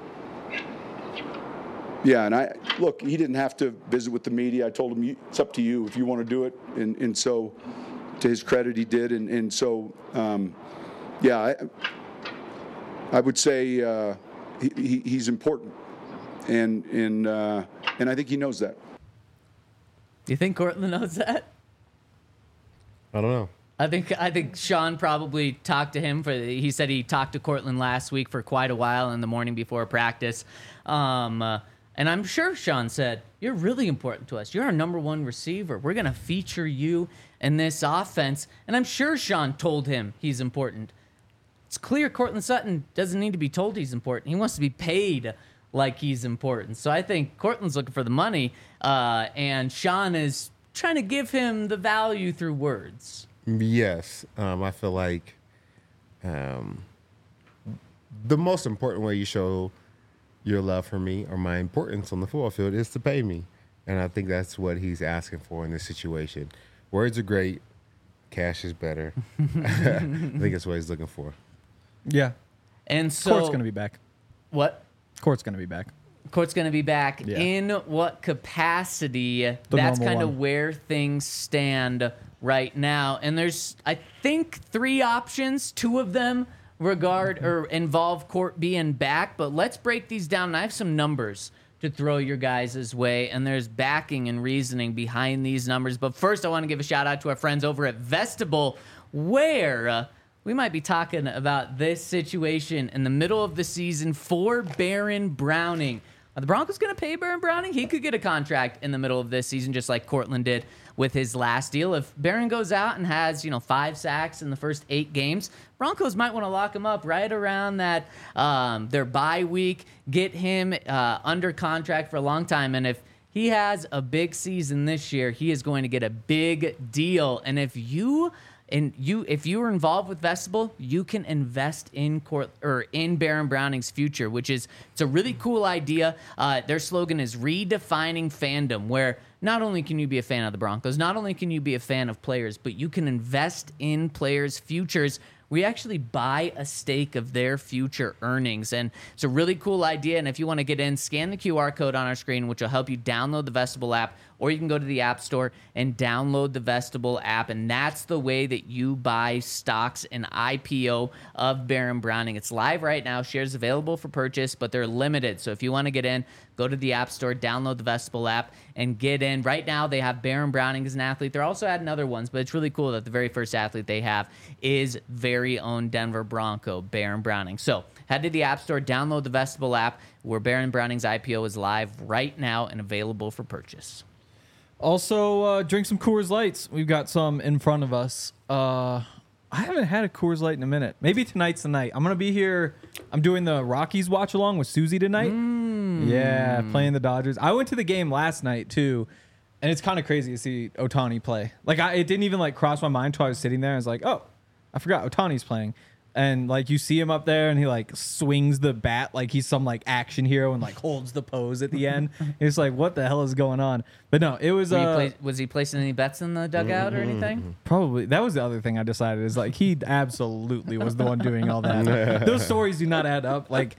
Speaker 7: yeah, and I look. He didn't have to visit with the media. I told him it's up to you if you want to do it, and and so to his credit, he did, and and so um, yeah, I, I would say uh, he, he, he's important, and and. Uh, And I think he knows that.
Speaker 2: Do you think Courtland knows that?
Speaker 3: I don't know.
Speaker 2: I think I think Sean probably talked to him for. He said he talked to Courtland last week for quite a while in the morning before practice, um, uh, and I'm sure Sean said, "You're really important to us. You're our number one receiver. We're gonna feature you in this offense." And I'm sure Sean told him he's important. It's clear Courtland Sutton doesn't need to be told he's important. He wants to be paid like he's important. So I think Courtland's looking for the money, uh, and Sean is trying to give him the value through words.
Speaker 3: Yes. Um, I feel like um, the most important way you show your love for me or my importance on the football field is to pay me. And I think that's what he's asking for in this situation. Words are great. Cash is better. I think that's what he's looking for.
Speaker 4: Yeah.
Speaker 2: And so
Speaker 4: Court's going to be back.
Speaker 2: What?
Speaker 4: Court's going to be back.
Speaker 2: Court's going to be back.
Speaker 4: Yeah.
Speaker 2: In what capacity?
Speaker 4: The
Speaker 2: That's
Speaker 4: normal
Speaker 2: kind of
Speaker 4: one.
Speaker 2: where things stand right now. And there's, I think, three options. Two of them regard or involve Court being back. But let's break these down. And I have some numbers to to throw your guys' way, and there's backing and reasoning behind these numbers. But first, I want to give a shout out to our friends over at Vestibule, where uh, we might be talking about this situation in the middle of the season for Baron Browning. Are the Broncos going to pay Baron Browning? He could get a contract in the middle of this season, just like Cortland did with his last deal. If Baron goes out and has, you know, five sacks in the first eight games, Broncos might want to lock him up right around that um, their bye week, get him uh, under contract for a long time. And if he has a big season this year, he is going to get a big deal. And if you And you, if you are involved with Vestibule, you can invest in Court or in Baron Browning's future, which is it's a really cool idea. Uh, their slogan is redefining fandom, where not only can you be a fan of the Broncos, not only can you be a fan of players, but you can invest in players' futures. We actually buy a stake of their future earnings, and it's a really cool idea. And if you want to get in, scan the Q R code on our screen, which will help you download the Vestibule app, or you can go to the App Store and download the Vestibule app, and that's the way that you buy stocks and I P O of Baron Browning. It's live right now. Shares available for purchase, but they're limited. So if you want to get in, go to the App Store, download the Vestibule app, and get in. Right now, they have Baron Browning as an athlete. They're also adding other ones, but it's really cool that the very first athlete they have is very own Denver Bronco, Baron Browning. So head to the App Store, download the Vestibule app, where Baron Browning's I P O is live right now and available for purchase.
Speaker 4: Also, uh, drink some Coors Lights. We've got some in front of us. Uh, I haven't had a Coors Light in a minute. Maybe tonight's the night. I'm going to be here. I'm doing the Rockies watch along with Susie tonight. Mm. Yeah, playing the Dodgers. I went to the game last night, too, and it's kind of crazy to see Ohtani play. Like, I, it didn't even, like, cross my mind until I was sitting there. I was like, oh, I forgot Ohtani's playing. And, like, you see him up there, and he, like, swings the bat like he's some, like, action hero and, like, holds the pose at the end. It's like, what the hell is going on? But, no, it was...
Speaker 2: Were you
Speaker 4: uh,
Speaker 2: play, was he placing any bets in the dugout or anything?
Speaker 4: Probably. That was the other thing I decided is, like, he absolutely was the one doing all that. Those stories do not add up. Like,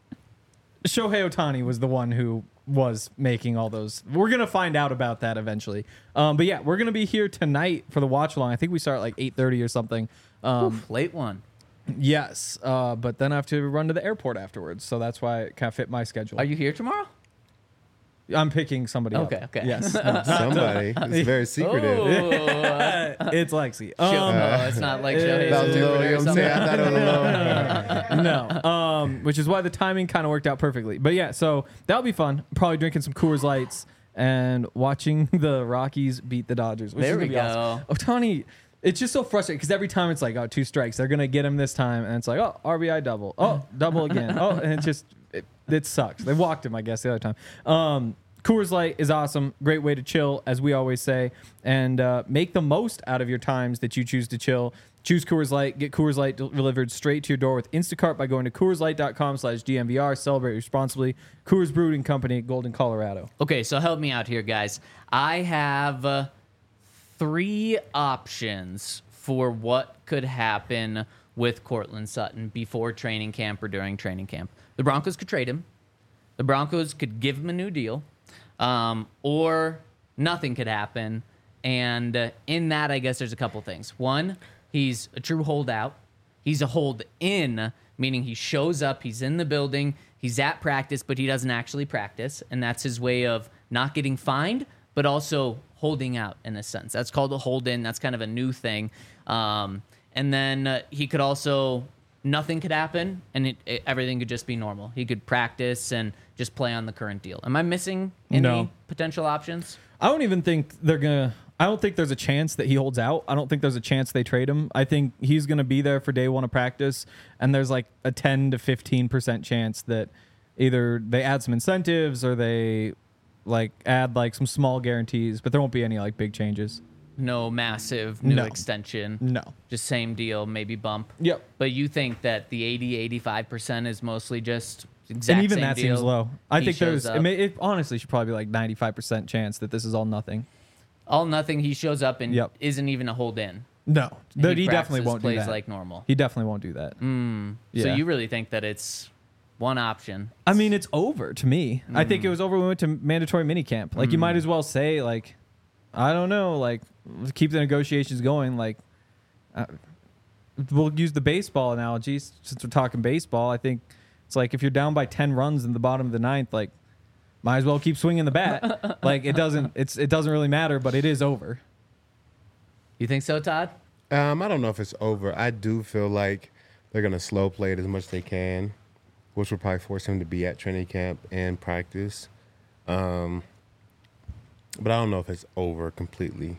Speaker 4: Shohei Ohtani was the one who was making all those. We're going to find out about that eventually. Um, but, yeah, we're going to be here tonight for the watch-along. I think we start at, like, eight thirty or something. Um,
Speaker 2: Oof, late one.
Speaker 4: Yes, uh, but then I have to run to the airport afterwards, so that's why it kind of fit my schedule.
Speaker 2: Are you here tomorrow?
Speaker 4: I'm picking somebody
Speaker 2: okay,
Speaker 4: up.
Speaker 2: Okay,
Speaker 4: Yes.
Speaker 3: No, somebody. It's very secretive.
Speaker 2: Oh,
Speaker 4: It's Lexi.
Speaker 2: Show,
Speaker 4: Um,
Speaker 2: no, it's not like Shohei's
Speaker 3: That was low,
Speaker 2: interpreter
Speaker 3: you
Speaker 2: or
Speaker 3: know what I'm saying? I
Speaker 2: something.
Speaker 3: thought it was low.
Speaker 4: no, um, which is why the timing kind of worked out perfectly. But yeah, so that'll be fun. Probably drinking some Coors Lights and watching the Rockies beat the Dodgers. Which
Speaker 2: There
Speaker 4: is
Speaker 2: we
Speaker 4: gonna be awesome.
Speaker 2: go.
Speaker 4: Ohtani, it's just so frustrating because every time it's like, oh, two strikes, they're gonna get him this time, and it's like, oh, R B I double, oh, double again, oh, and it just it, it sucks. They walked him, I guess, the other time. Um, Coors Light is awesome. Great way to chill, as we always say, and uh, make the most out of your times that you choose to chill. Choose Coors Light. Get Coors Light delivered straight to your door with Instacart by going to CoorsLight.com slash DNVR. Celebrate responsibly. Coors Brewing Company, Golden, Colorado.
Speaker 2: Okay, so help me out here, guys. I have uh, three options for what could happen with Courtland Sutton before training camp or during training camp. The Broncos could trade him. The Broncos could give him a new deal. Um, or nothing could happen. And uh, in that, I guess there's a couple things. One, he's a true holdout. He's a hold-in, meaning he shows up, he's in the building, he's at practice, but he doesn't actually practice. And that's his way of not getting fined, but also holding out in a sense. That's called a hold-in. That's kind of a new thing. Um, and then uh, he could also... Nothing could happen, and it, it, everything could just be normal. He could practice and just play on the current deal. Am I missing any
Speaker 4: No.
Speaker 2: potential options?
Speaker 4: I don't even think they're going to... I don't think there's a chance that he holds out. I don't think there's a chance they trade him. I think he's going to be there for day one of practice, and there's like a ten to fifteen percent chance that either they add some incentives or they like add like some small guarantees, but there won't be any like big changes.
Speaker 2: No massive new
Speaker 4: No.
Speaker 2: extension.
Speaker 4: No.
Speaker 2: Just same deal, maybe bump.
Speaker 4: Yep.
Speaker 2: But you think that the eighty, eighty-five percent is mostly just exact
Speaker 4: And even
Speaker 2: same
Speaker 4: that
Speaker 2: deal?
Speaker 4: seems low. I
Speaker 2: He
Speaker 4: think there's...
Speaker 2: shows
Speaker 4: It,
Speaker 2: up.
Speaker 4: may, it honestly should probably be like ninety-five percent chance that this is all nothing.
Speaker 2: All nothing, he shows up and
Speaker 4: Yep.
Speaker 2: isn't even a hold-in.
Speaker 4: No.
Speaker 2: And
Speaker 4: He, he definitely
Speaker 2: practices,
Speaker 4: won't do
Speaker 2: plays
Speaker 4: that.
Speaker 2: like normal.
Speaker 4: He definitely won't do that.
Speaker 2: Mm.
Speaker 4: Yeah.
Speaker 2: So you really think that it's one option?
Speaker 4: I mean, it's over to me. I think it was over when we went to mandatory minicamp. Like, you might as well say, like, I don't know, like, keep the negotiations going. Like, uh, we'll use the baseball analogy since we're talking baseball. I think it's like if you're down by ten runs in the bottom of the ninth, like, might as well keep swinging the bat. Like it doesn't, it's it doesn't really matter, but it is over.
Speaker 2: You think so, Todd?
Speaker 3: Um, I don't know if it's over. I do feel like they're gonna slow play it as much as they can, which will probably force him to be at training camp and practice. Um, but I don't know if it's over completely.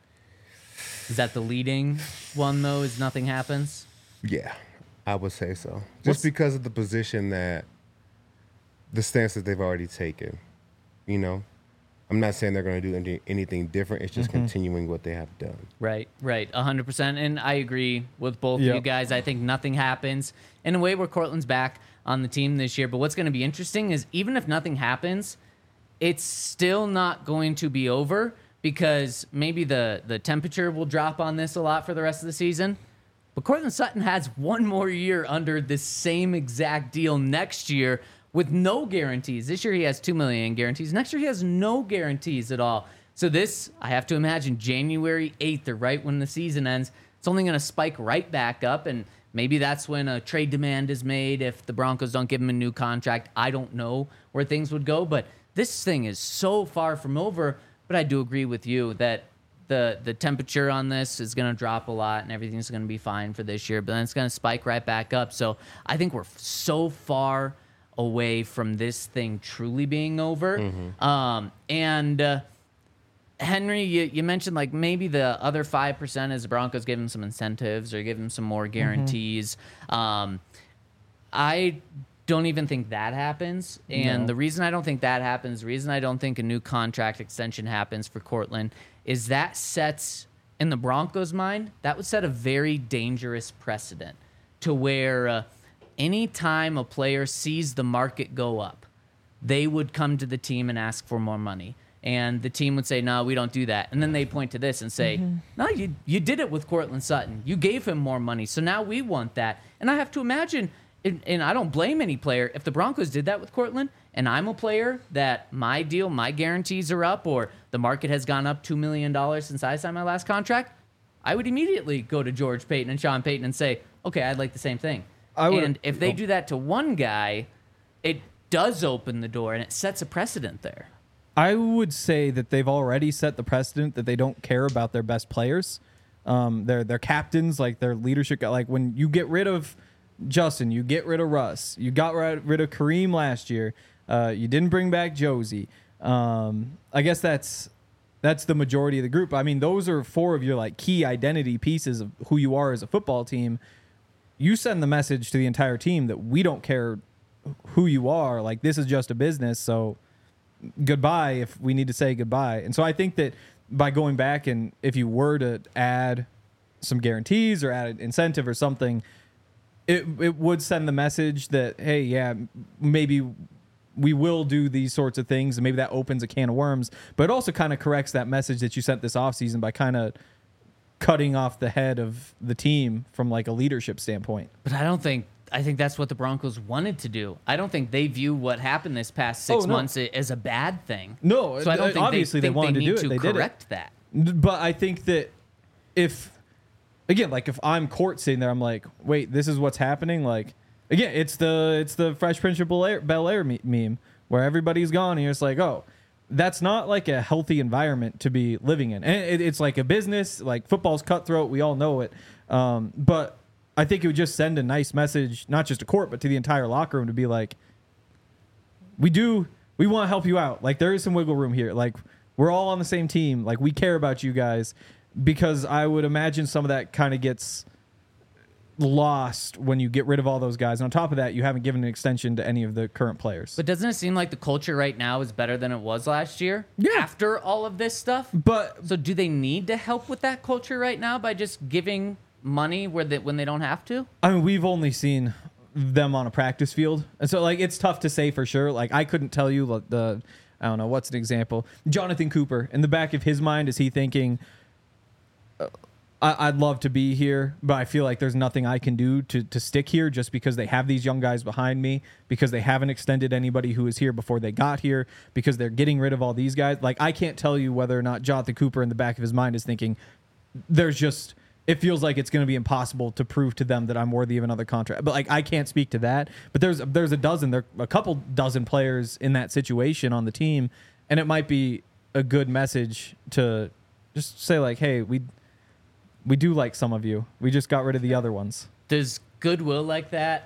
Speaker 2: Is that the leading one though? Is nothing happens?
Speaker 3: Yeah, I would say so. Just
Speaker 4: What's-
Speaker 3: because of the position that the stance that they've already taken. You know, I'm not saying they're going to do any, anything different. It's just
Speaker 4: Mm-hmm.
Speaker 3: continuing what they have done.
Speaker 2: Right, right, one hundred percent. And I agree with both of
Speaker 4: Yep.
Speaker 2: you guys. I think nothing happens in a way where Cortland's back on the team this year. But what's going to be interesting is even if nothing happens, it's still not going to be over because maybe the, the temperature will drop on this a lot for the rest of the season. But Cortland Sutton has one more year under the same exact deal next year with no guarantees. This year he has two million dollars in guarantees. Next year he has no guarantees at all. So this, I have to imagine, January eighth or right when the season ends, it's only going to spike right back up. And maybe that's when a trade demand is made if the Broncos don't give him a new contract. I don't know where things would go. But this thing is so far from over. But I do agree with you that the the temperature on this is going to drop a lot and everything's going to be fine for this year. But then it's going to spike right back up. So I think we're so far away from this thing truly being over.
Speaker 3: Mm-hmm.
Speaker 2: Um, and uh, Henry, you, you mentioned like maybe the other five percent is the Broncos give him some incentives or give him some more guarantees. Um, I don't even think that happens. And
Speaker 4: No.
Speaker 2: the reason I don't think that happens, the reason I don't think a new contract extension happens for Cortland is that sets, in the Broncos' mind, that would set a very dangerous precedent to where uh, anytime a player sees the market go up, they would come to the team and ask for more money. And the team would say, no, we don't do that. And then they point to this and say, no, you, you did it with Cortland Sutton. You gave him more money. So now we want that. And I have to imagine, and, and I don't blame any player, if the Broncos did that with Cortland and I'm a player that my deal, my guarantees are up or the market has gone up two million dollars since I signed my last contract, I would immediately go to George Payton and Sean Payton and say, okay, I'd like the same thing.
Speaker 4: I would-
Speaker 2: And if they
Speaker 4: oh.
Speaker 2: do that to one guy, it does open the door and it sets a precedent there.
Speaker 4: I would say that they've already set the precedent that they don't care about their best players. Um, their their captains, like their leadership, like when you get rid of Justin, you get rid of Russ, you got rid rid of Kareem last year. Uh, you didn't bring back Josie. Um, I guess that's that's the majority of the group. I mean, those are four of your like key identity pieces of who you are as a football team. You send the message to the entire team that we don't care who you are. Like this is just a business. So goodbye if we need to say goodbye. And so I think that by going back and if you were to add some guarantees or add an incentive or something, it it would send the message that, hey, yeah, maybe we will do these sorts of things and maybe that opens a can of worms. But it also kind of corrects that message that you sent this offseason by kind of cutting off the head of the team from like a leadership standpoint.
Speaker 2: But I don't think I think that's what the Broncos wanted to do. I don't think they view what happened this past six
Speaker 4: Oh, no.
Speaker 2: months as a bad thing.
Speaker 4: No,
Speaker 2: so I don't think
Speaker 4: obviously
Speaker 2: they,
Speaker 4: they
Speaker 2: think
Speaker 4: wanted
Speaker 2: they
Speaker 4: to
Speaker 2: need
Speaker 4: do it.
Speaker 2: to
Speaker 4: They did it.
Speaker 2: correct that.
Speaker 4: But I think that if, again, like if I'm Court sitting there, I'm like, wait, this is what's happening. Like, again, it's the it's the Fresh Prince of Bel Air, Bel Air me- meme where everybody's gone and you're just like, oh, that's not like a healthy environment to be living in. And it, it's like a business, like football's cutthroat. We all know it. Um, but I think it would just send a nice message, not just to Court, but to the entire locker room to be like, we do, we want to help you out. Like there is some wiggle room here. Like we're all on the same team. Like we care about you guys, because I would imagine some of that kind of gets lost when you get rid of all those guys. And on top of that, you haven't given an extension to any of the current players.
Speaker 2: But doesn't it seem like the culture right now is better than it was last year?
Speaker 4: Yeah.
Speaker 2: After all of this stuff?
Speaker 4: But
Speaker 2: So do they need to help with that culture right now by just giving money where they, when they don't have to?
Speaker 4: I mean, we've only seen them on a practice field. And so like, it's tough to say for sure. Like I couldn't tell you like, the, I don't know, what's an example? Jonathan Cooper, in the back of his mind, is he thinking, uh, I, I'd love to be here, but I feel like there's nothing I can do to, to stick here just because they have these young guys behind me, because they haven't extended anybody who was here before they got here, because they're getting rid of all these guys. Like I can't tell you whether or not Jonathan Cooper in the back of his mind is thinking, there's just it feels like it's going to be impossible to prove to them that I'm worthy of another contract. But like, I can't speak to that. But there's there's a dozen, there a couple dozen players in that situation on the team, and it might be a good message to just say like, hey, we we do like some of you. We just got rid of the other ones.
Speaker 2: Does goodwill like that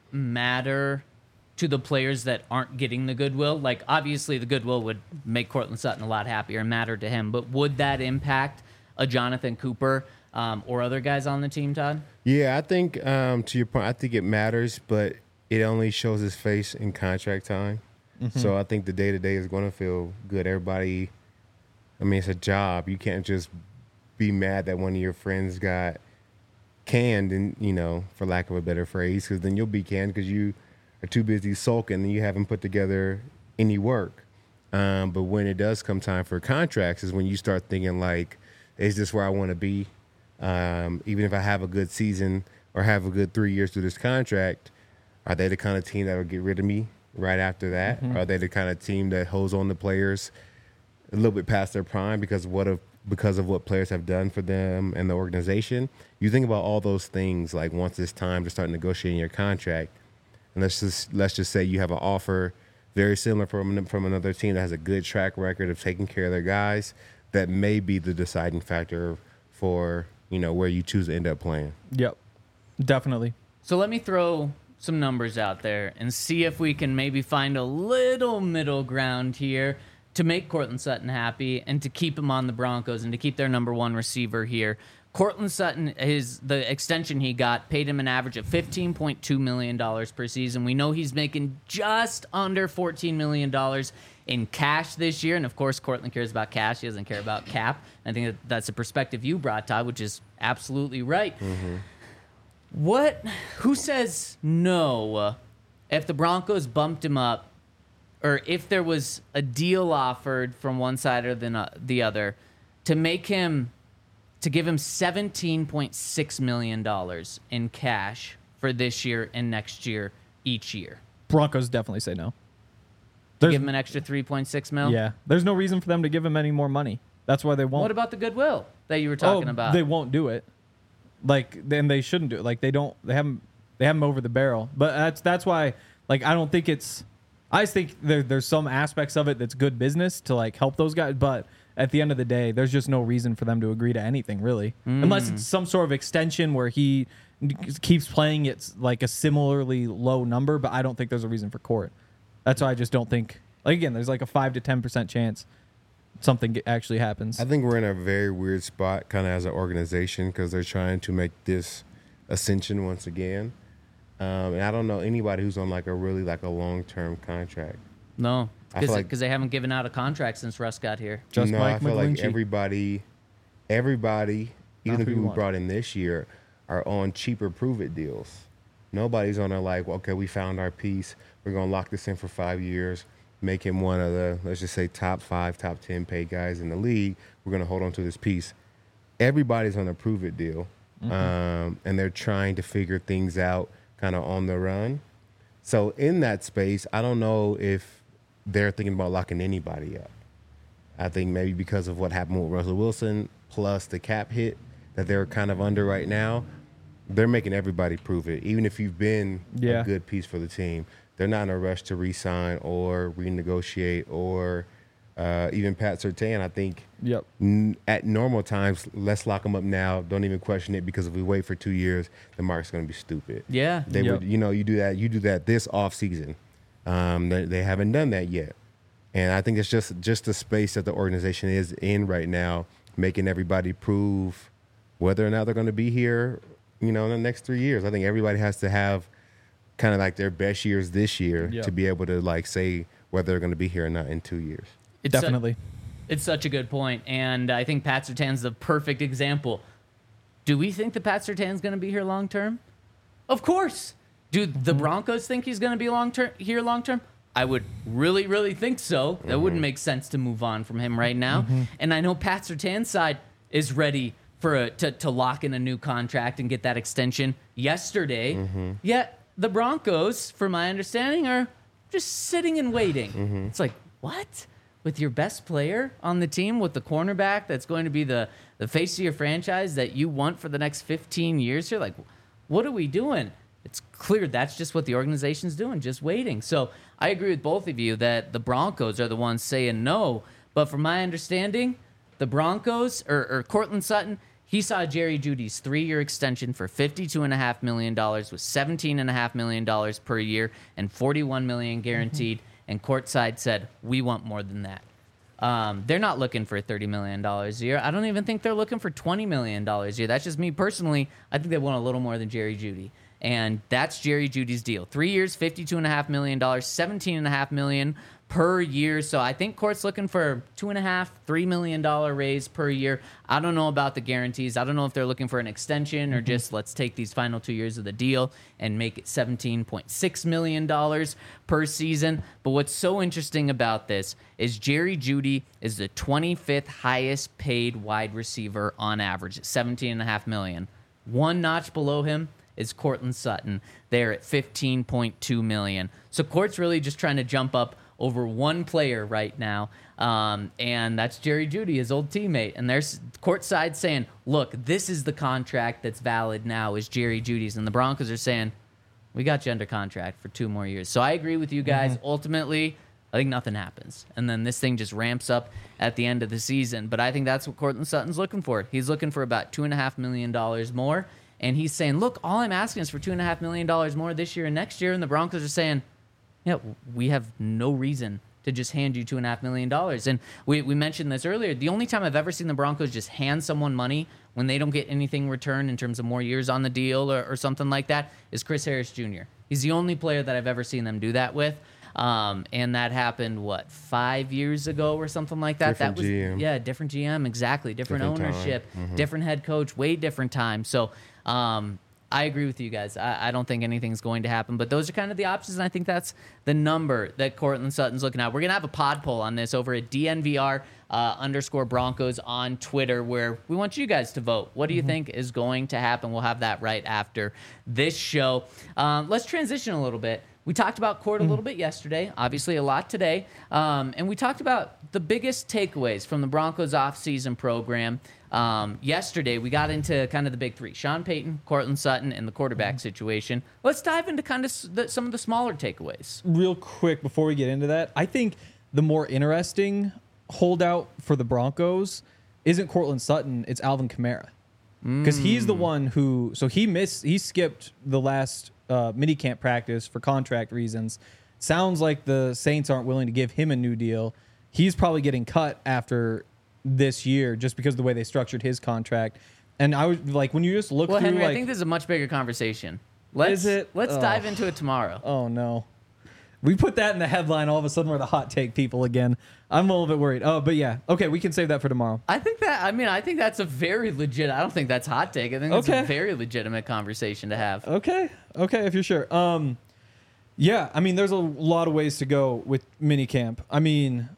Speaker 2: matter to the players that aren't getting the goodwill? Like, obviously, the goodwill would make Courtland Sutton a lot happier and matter to him, but would that impact a Jonathan Cooper um, or other guys on the team, Todd?
Speaker 3: Yeah, I think, um, to your point, I think it matters, but it only shows his face in contract time. Mm-hmm. So I think the day-to-day is going to feel good. Everybody, I mean, it's a job. You can't just be mad that one of your friends got canned, and you know, for lack of a better phrase, because then you'll be canned because you are too busy sulking and you haven't put together any work. Um, but when it does come time for contracts is when you start thinking like, is this where I want to be? Um, even if I have a good season or have a good three years through this contract, are they the kind of team that will get rid of me right after that? Mm-hmm. Are they the kind of team that holds on to players a little bit past their prime because of what of because of what players have done for them and the organization? You think about all those things, like once it's time to start negotiating your contract, and let's just let's just say you have an offer very similar from from another team that has a good track record of taking care of their guys, that may be the deciding factor for, you know, where you choose to end up playing.
Speaker 4: Yep, definitely.
Speaker 2: So let me throw some numbers out there and see if we can maybe find a little middle ground here to make Courtland Sutton happy and to keep him on the Broncos and to keep their number one receiver here. Courtland Sutton, his the extension he got paid him an average of fifteen point two million dollars per season. We know he's making just under fourteen million dollars in cash this year. And, of course, Courtland cares about cash. He doesn't care about cap. I think that that's a perspective you brought, Todd, which is absolutely right. Mm-hmm. What? Who says no if the Broncos bumped him up, or if there was a deal offered from one side or the, the other to make him, to give him seventeen point six million dollars in cash for this year and next year each year?
Speaker 4: Broncos definitely say no.
Speaker 2: To give him an extra three point six mil?
Speaker 4: Yeah. There's no reason for them to give him any more money. That's why they won't.
Speaker 2: What about the goodwill that you were talking
Speaker 4: oh,
Speaker 2: about?
Speaker 4: They won't do it. Like, then they shouldn't do it. Like, they don't, they haven't, they have him over the barrel. But that's, that's why, like, I don't think it's, I just think there, there's some aspects of it that's good business to, like, help those guys. But at the end of the day, there's just no reason for them to agree to anything, really. Mm. Unless it's some sort of extension where he keeps playing at, like, a similarly low number. But I don't think there's a reason for court. That's why I just don't think, like, again, there's like a five to ten percent chance something actually happens.
Speaker 3: I think we're in a very weird spot kind of as an organization because they're trying to make this ascension once again. Um, and I don't know anybody who's on like a really like a long-term contract.
Speaker 2: No, because
Speaker 3: like,
Speaker 2: they haven't given out a contract since Russ got here.
Speaker 4: Just
Speaker 3: no,
Speaker 4: Mike
Speaker 3: I feel
Speaker 4: McGlinchey.
Speaker 3: like everybody, everybody, even
Speaker 4: Not
Speaker 3: the
Speaker 4: who you
Speaker 3: people we
Speaker 4: want.
Speaker 3: brought in this year are on cheaper prove-it deals. Nobody's on a like, okay, we found our piece. We're going to lock this in for five years, make him one of the, let's just say, top five, top ten paid guys in the league. We're going to hold on to this piece. Everybody's on a prove-it deal, mm-hmm. um, and they're trying to figure things out kind of on the run. So in that space, I don't know if they're thinking about locking anybody up. I think maybe because of what happened with Russell Wilson, plus the cap hit that they're kind of under right now, they're making everybody prove it. Even if you've been
Speaker 4: Yeah.
Speaker 3: a good piece for the team, they're not in a rush to re-sign or renegotiate or uh, even Pat Surtain. I think
Speaker 4: Yep.
Speaker 3: n- at normal times, let's lock them up now. Don't even question it, because if we wait for two years, the market's going to be stupid.
Speaker 2: Yeah.
Speaker 3: They
Speaker 4: Yep.
Speaker 3: would, you know, you do that. You do that this off season. Um, they, they haven't done that yet, and I think it's just just the space that the organization is in right now, making everybody prove whether or not they're going to be here, you know, in the next three years. I think everybody has to have kind of like their best years this year
Speaker 4: Yep.
Speaker 3: to be able to like say whether they're going to be here or not in two years.
Speaker 2: It's
Speaker 4: Definitely.
Speaker 2: Su- it's such a good point, and I think Pat Surtain's the perfect example. Do we think that Pat Surtain's going to be here long term? Of course. Do the Broncos think he's going to be long term here long term? I would really, really think so. That wouldn't make sense to move on from him right now. And I know Pat Surtain's side is ready for a, to to lock in a new contract and get that extension yesterday. Yet the Broncos, from my understanding, are just sitting and waiting. It's like, what? with your best player on the team, with the cornerback that's going to be the, the face of your franchise that you want for the next fifteen years here? Like, what are we doing? It's clear that's just what the organization's doing, just waiting. So I agree with both of you that the Broncos are the ones saying no. But from my understanding, the Broncos, or, or Courtland Sutton, he saw Jerry Jeudy's three-year extension for fifty-two point five million dollars with seventeen point five million dollars per year and forty-one million dollars guaranteed. Mm-hmm. And courtside said, we want more than that. Um, they're not looking for thirty million dollars a year. I don't even think they're looking for twenty million dollars a year. That's just me personally. I think they want a little more than Jerry Jeudy. And that's Jerry Jeudy's deal. Three years, fifty-two point five million dollars, seventeen point five million dollars per year. So I think Court's looking for two and a half, three million dollar raise per year. I don't know about the guarantees. I don't know if they're looking for an extension or just let's take these final two years of the deal and make it seventeen point six million dollars per season. But what's so interesting about this is Jerry Jeudy is the twenty-fifth highest paid wide receiver on average at seventeen and a half million. One notch below him is Courtland Sutton. They're at fifteen point two million. So Court's really just trying to jump up over one player right now, um, and that's Jerry Jeudy, his old teammate. And there's courtside saying, look, this is the contract that's valid now is Jerry Jeudy's. And the Broncos are saying, we got you under contract for two more years. So I agree with you guys. Mm-hmm. Ultimately, I think nothing happens. And then this thing just ramps up at the end of the season. But I think that's what Courtland Sutton's looking for. He's looking for about two point five million dollars more. And he's saying, look, all I'm asking is for two point five million dollars more this year and next year. And the Broncos are saying, yeah, we have no reason to just hand you two point five million dollars. And we, we mentioned this earlier. The only time I've ever seen the Broncos just hand someone money when they don't get anything returned in terms of more years on the deal or, or something like that is Chris Harris Junior He's the only player that I've ever seen them do that with. Um, and that happened, what, five years ago or something like that?
Speaker 3: Different
Speaker 2: that was,
Speaker 3: G M.
Speaker 2: Yeah, different G M, exactly. Different,
Speaker 3: Different
Speaker 2: ownership,
Speaker 3: time. Mm-hmm.
Speaker 2: different head coach, way different time. So, um, I agree with you guys. I, I don't think anything's going to happen, but those are kind of the options, and I think that's the number that Courtland Sutton's looking at. We're going to have a pod poll on this over at D N V R uh, underscore Broncos on Twitter, where we want you guys to vote. What do you mm-hmm. think is going to happen? We'll have that right after this show. Um, let's transition a little bit. We talked about Court a little bit yesterday, obviously a lot today, um, and we talked about the biggest takeaways from the Broncos offseason program. Um, yesterday, we got into kind of the big three, Sean Payton, Courtland Sutton, and the quarterback mm-hmm. situation. Let's dive into kind of s- the, some of the smaller takeaways.
Speaker 4: Real quick, before we get into that, I think the more interesting holdout for the Broncos isn't Courtland Sutton, it's Alvin Kamara. Because mm. he's the one who, so he missed, he skipped the last uh, minicamp practice for contract reasons. Sounds like the Saints aren't willing to give him a new deal. He's probably getting cut after this year just because of the way they structured his contract. And I was like, when you just look
Speaker 2: well,
Speaker 4: through,
Speaker 2: Henry,
Speaker 4: like,
Speaker 2: I think this is a much bigger conversation. Let's,
Speaker 4: is it?
Speaker 2: Let's
Speaker 4: oh.
Speaker 2: dive into it tomorrow.
Speaker 4: Oh, no. We put that in the headline. All of a sudden, we're the hot take people again. I'm a little bit worried. Oh, but yeah. Okay, we can save that for tomorrow.
Speaker 2: I think that, I mean, I think that's a very legit, I don't think that's hot take. I think that's
Speaker 4: okay.
Speaker 2: a very legitimate conversation to have.
Speaker 4: Okay. Okay, if you're sure. Um, yeah, I mean, there's a lot of ways to go with minicamp. I mean,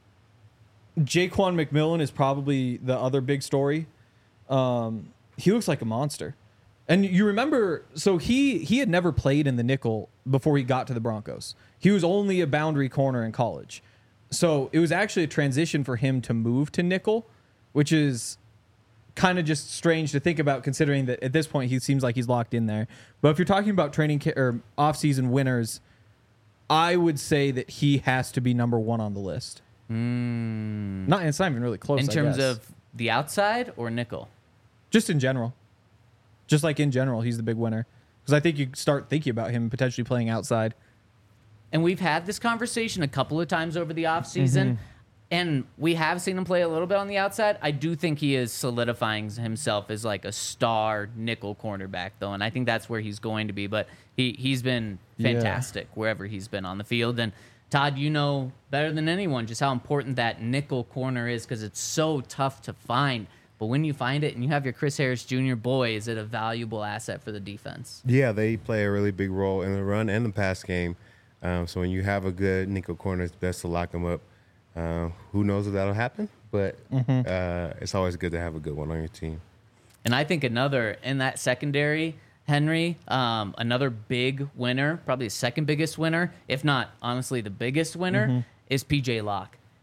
Speaker 4: Jaquan McMillan is probably the other big story. Um, he looks like a monster. And you remember, so he he had never played in the nickel before he got to the Broncos. He was only a boundary corner in college. So it was actually a transition for him to move to nickel, which is kind of just strange to think about considering that at this point he seems like he's locked in there. But if you're talking about training ca- or off-season winners, I would say that he has to be number one on the list.
Speaker 2: Mm.
Speaker 4: Not, it's not even really close,
Speaker 2: In
Speaker 4: I
Speaker 2: terms
Speaker 4: guess.
Speaker 2: of the outside or nickel?
Speaker 4: Just in general. Just like in general, he's the big winner. Because I think you start thinking about him potentially playing outside.
Speaker 2: And we've had this conversation a couple of times over the offseason, mm-hmm. and we have seen him play a little bit on the outside. I do think he is solidifying himself as like a star nickel cornerback, though, and I think that's where he's going to be. But he, he's been fantastic yeah. wherever he's been on the field. And Todd, you know better than anyone just how important that nickel corner is because it's so tough to find. But when you find it and you have your Chris Harris Junior, boy, is it a valuable asset for the defense.
Speaker 3: Yeah, they play a really big role in the run and the pass game. Um, so when you have a good nickel corner, it's best to lock them up. Uh, who knows if that'll happen, but mm-hmm. uh, it's always good to have a good one on your team.
Speaker 2: And I think another in that secondary, Henry, um, another big winner, probably the second biggest winner, if not honestly the biggest winner, mm-hmm. is P J Locke.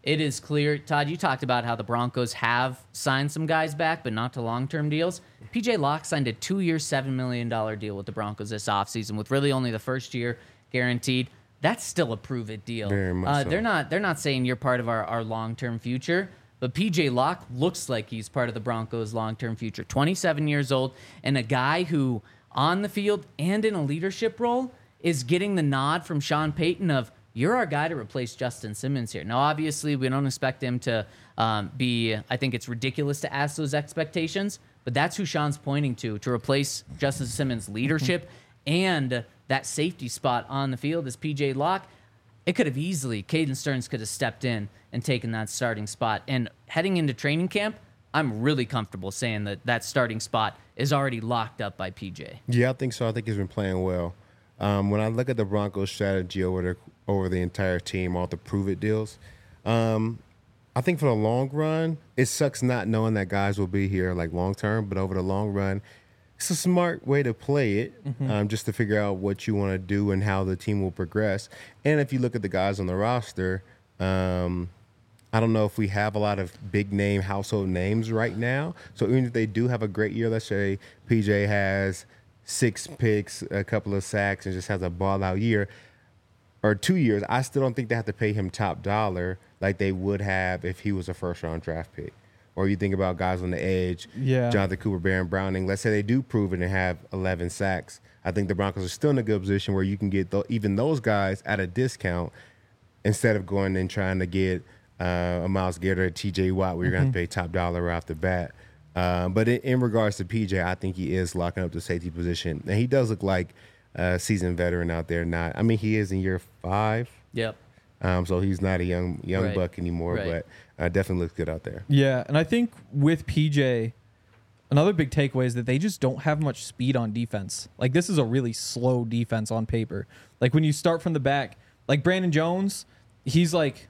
Speaker 2: it is clear. Todd, you talked about how the Broncos have signed some guys back, but not to long-term deals. P J Locke signed a two-year, seven million dollars deal with the Broncos this offseason, with really only the first year guaranteed. That's still a prove-it deal.
Speaker 3: Very much
Speaker 2: uh,
Speaker 3: so.
Speaker 2: They're not. They're not saying you're part of our, our long-term future. But P J Locke looks like he's part of the Broncos' long-term future. twenty-seven years old, and a guy who, on the field and in a leadership role, is getting the nod from Sean Payton of, you're our guy to replace Justin Simmons here. Now, obviously, we don't expect him to um, be, I think it's ridiculous to ask those expectations, but that's who Sean's pointing to, to replace Justin Simmons' leadership and that safety spot on the field is P J Locke. It could have easily, Caden Stearns could have stepped in and taken that starting spot. And heading into training camp, I'm really comfortable saying that that starting spot is already locked up by P J.
Speaker 3: Yeah, I think so. I think he's been playing well. Um, when I look at the Broncos' strategy over the over the entire team, all the prove-it deals, um, I think for the long run, it sucks not knowing that guys will be here like long term. But over the long run, it's a smart way to play it, mm-hmm. um, just to figure out what you want to do and how the team will progress. And if you look at the guys on the roster, um, I don't know if we have a lot of big name household names right now. So even if they do have a great year, let's say P J has six picks, a couple of sacks, and just has a ball out year or two years, I still don't think they have to pay him top dollar like they would have if he was a first round draft pick. Or you think about guys on the edge,
Speaker 4: yeah.
Speaker 3: Jonathan Cooper, Baron Browning. Let's say they do prove it and have eleven sacks. I think the Broncos are still in a good position where you can get th- even those guys at a discount instead of going and trying to get uh, a Myles Garrett or a T J Watt where you're going to have to pay top dollar right off the bat. Uh, but in, in regards to P J, I think he is locking up the safety position. And he does look like a seasoned veteran out there. Not, I mean, he is in year five.
Speaker 2: Yep.
Speaker 3: Um, so he's not a young young
Speaker 2: Right.
Speaker 3: buck anymore,
Speaker 2: Right.
Speaker 3: but uh, definitely looks good out there.
Speaker 4: Yeah, and I think with P J, another big takeaway is that they just don't have much speed on defense. Like, this is a really slow defense on paper. Like, when you start from the back, like Brandon Jones, he's like,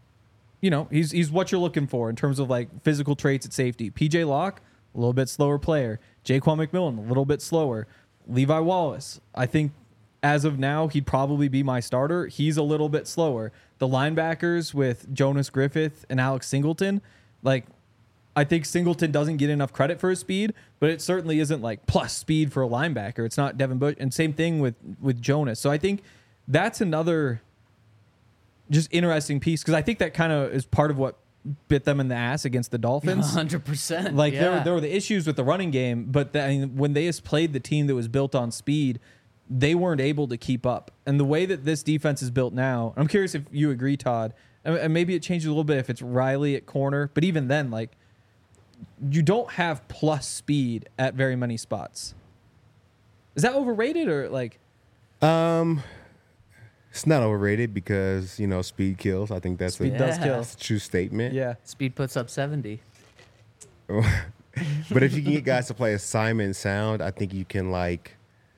Speaker 4: you know, he's he's what you're looking for in terms of like physical traits at safety. P J Locke, a little bit slower player. Jaquan McMillan, a little bit slower. Levi Wallace, I think as of now, he'd probably be my starter. He's a little bit slower. The linebackers with Jonas Griffith and Alex Singleton, like, I think Singleton doesn't get enough credit for his speed, but it certainly isn't like plus speed for a linebacker. It's not Devin Bush. And same thing with, with Jonas. So I think that's another just interesting piece, because I think that kind of is part of what bit them in the ass against the Dolphins.
Speaker 2: one hundred percent.
Speaker 4: Like,
Speaker 2: yeah.
Speaker 4: there, were, there were the issues with the running game, but the, I mean, when they just played the team that was built on speed, they weren't able to keep up. And the way that this defense is built now, I'm curious if you agree, Todd, and, and maybe it changes a little bit if it's Riley at corner, but even then, like, you don't have plus speed at very many spots. Is that overrated or like?
Speaker 3: Um, it's not overrated because, you know, speed kills. I think that's
Speaker 4: Speed
Speaker 3: a,
Speaker 4: does
Speaker 2: Yeah.
Speaker 4: kill.
Speaker 3: that's a true statement.
Speaker 4: Yeah.
Speaker 2: Speed puts up seventy.
Speaker 3: But if you can get guys to play assignment sound, I think you can, like,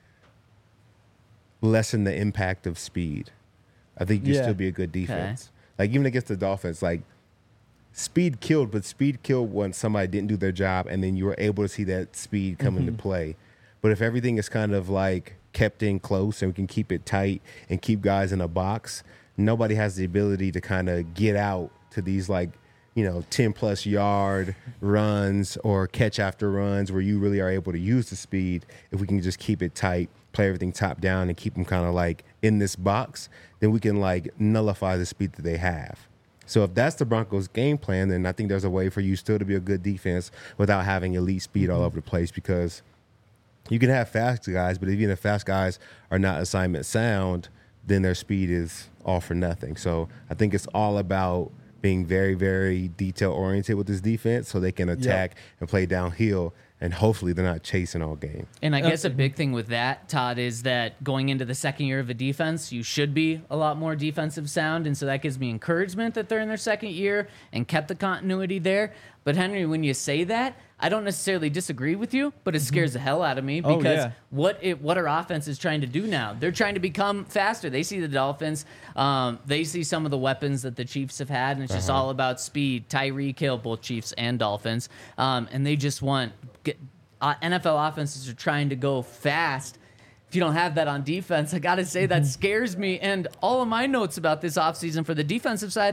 Speaker 3: lessen the impact of speed. I think you
Speaker 4: Yeah.
Speaker 3: still be a good defense. Like, even against the Dolphins, like, speed killed, but speed killed when somebody didn't do their job, and then you were able to see that speed come
Speaker 4: Mm-hmm.
Speaker 3: into play. But if everything is kind of, like, kept in close and we can keep it tight and keep guys in a box, nobody has the ability to kind of get out to these, like, you know, ten plus yard runs or catch after runs where you really are able to use the speed. If we can just keep it tight, play everything top down, and keep them kind of like in this box, then we can like nullify the speed that they have. So if that's the Broncos' game plan, then I think there's a way for you still to be a good defense without having elite speed all over the place, because you can have fast guys, but even if fast guys are not assignment sound, then their speed is all for nothing. So I think it's all about being very, very detail-oriented with this defense so they can attack and play downhill, and hopefully they're not chasing all game.
Speaker 2: And I guess a big thing with that, Todd, is that going into the second year of a defense, you should be a lot more defensive sound. And so that gives me encouragement that they're in their second year and kept the continuity there. But Henry, when you say that, I don't necessarily disagree with you, but it scares the hell out of me
Speaker 4: Oh,
Speaker 2: because
Speaker 4: yeah.
Speaker 2: what it, what our offense is trying to do now, they're trying to become faster. They see the Dolphins, um, they see some of the weapons that the Chiefs have had, and it's just all about speed. Tyreek Hill, both Chiefs and Dolphins, um, and they just want get, uh, N F L offenses are trying to go fast. If you don't have that on defense, I got to say that scares me. And all of my notes about this offseason for the defensive side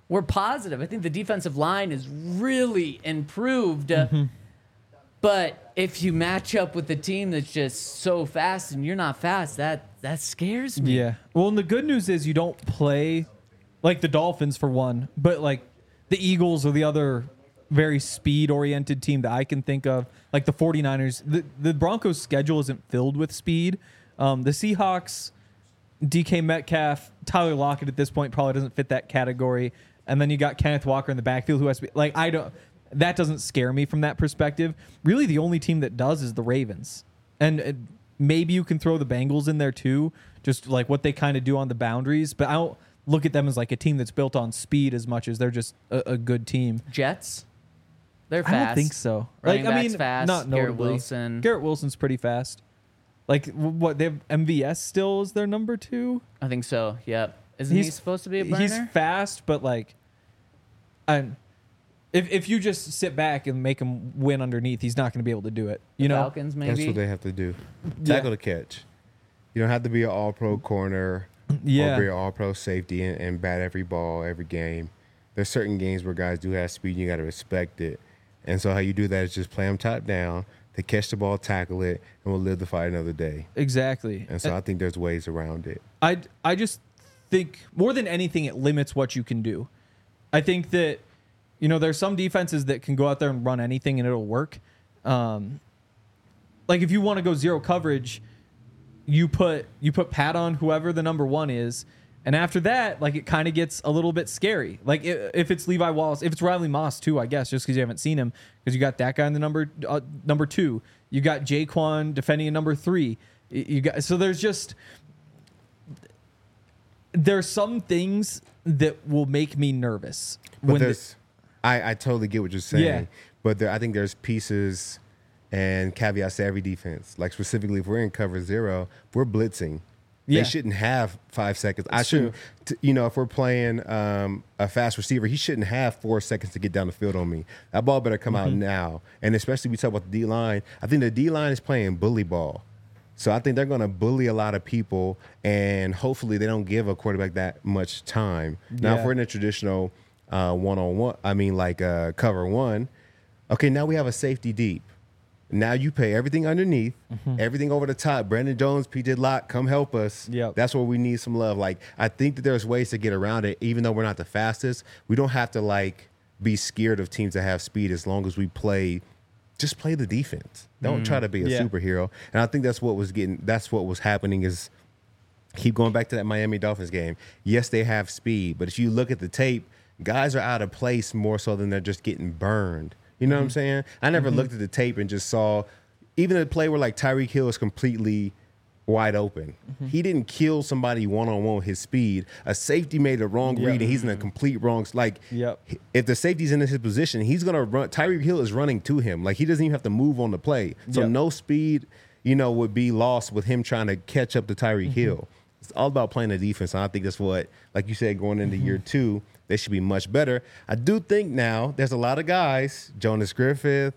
Speaker 2: we're positive. I think the defensive line is really improved. Mm-hmm. But if you match up with a team that's just so fast and you're not fast, that that scares me.
Speaker 4: Yeah. Well, and the good news is you don't play like the Dolphins for one, but like the Eagles or the other very speed-oriented team that I can think of, like the 49ers. The, the Broncos' schedule isn't filled with speed. Um, the Seahawks, D K Metcalf, Tyler Lockett at this point probably doesn't fit that category. And then you got Kenneth Walker in the backfield who has to be like, I don't, that doesn't scare me from that perspective. Really, the only team that does is the Ravens. And uh, maybe you can throw the Bengals in there too, just like what they kind of do on the boundaries. But I don't look at them as like a team that's built on speed as much as they're just a, a good team.
Speaker 2: Jets? They're fast.
Speaker 4: I don't think so.
Speaker 2: Running
Speaker 4: like, I
Speaker 2: back's
Speaker 4: mean,
Speaker 2: fast.
Speaker 4: not
Speaker 2: Garrett
Speaker 4: notably.
Speaker 2: Wilson.
Speaker 4: Garrett Wilson's pretty fast. Like, what, they have M V S still as their number two?
Speaker 2: I think so, yep. Isn't he supposed to be a burner?
Speaker 4: He's fast, but like, I'm, if if you just sit back and make him win underneath, he's not going to be able to do it. You
Speaker 2: The
Speaker 4: know,
Speaker 2: Falcons, maybe?
Speaker 3: That's what they have to do.
Speaker 4: Yeah.
Speaker 3: Tackle the catch. You don't have to be an all-pro corner
Speaker 4: Yeah.
Speaker 3: or be an all-pro safety and, and bat every ball every game. There's certain games where guys do have speed, and you got to respect it. And so how you do that is just play them top down. They catch the ball, tackle it, and we'll live to fight another day.
Speaker 4: exactly.
Speaker 3: And so I think there's ways around it.
Speaker 4: I I just think more than anything, it limits what you can do. I think that, you know, there's some defenses that can go out there and run anything and it'll work. Um, like if you want to go zero coverage, you put you put Pat on whoever the number one is, and after that, like it kind of gets a little bit scary. Like if, if it's Levi Wallace, if it's Riley Moss too, I guess, just because you haven't seen him, because you got that guy in the number uh, number two, you got Jaquan defending a number three. You got so there's just there's some things that will make me nervous.
Speaker 3: But
Speaker 4: when the-
Speaker 3: there's, I, I totally get what you're saying.
Speaker 4: Yeah.
Speaker 3: But there, I think there's pieces and caveats to every defense. Like specifically, if we're in cover zero, we're blitzing.
Speaker 4: Yeah.
Speaker 3: They shouldn't have five seconds. I
Speaker 4: It's
Speaker 3: shouldn't, t- you know, if we're playing um, a fast receiver, he shouldn't have four seconds to get down the field on me. That ball better come out now. And especially we talk about the D line. I think the D line is playing bully ball. So I think they're going to bully a lot of people, and hopefully they don't give a quarterback that much time. Now, if
Speaker 4: Yeah.
Speaker 3: we're in a traditional uh, one-on-one, I mean, like uh, cover one, okay, now we have a safety deep. Now you pay everything underneath, everything over the top. Brandon Jones, P J Locke, come help us.
Speaker 4: Yep.
Speaker 3: That's where we need some love. Like, I think that there's ways to get around it, even though we're not the fastest. We don't have to, like, be scared of teams that have speed as long as we play – just play the defense. Don't try to be a
Speaker 4: Yeah.
Speaker 3: superhero. And I think that's what was getting that's what was happening is keep going back to that Miami Dolphins game. Yes, they have speed, but if you look at the tape, guys are out of place more so than they're just getting burned. You know what I'm saying? I never looked at the tape and just saw even a play where like Tyreek Hill is completely wide open. He didn't kill somebody one-on-one with his speed. A safety made a wrong
Speaker 4: Yep.
Speaker 3: read and he's in a complete wrong like
Speaker 4: Yep.
Speaker 3: if the safety's in his position, he's gonna run. Tyreek Hill is running to him. Like he doesn't even have to move on the play. So
Speaker 4: Yep.
Speaker 3: no speed, you know, would be lost with him trying to catch up to Tyreek Hill. It's all about playing the defense. And I think that's what, like you said, going into year two, they should be much better. I do think now there's a lot of guys, Jonas Griffith,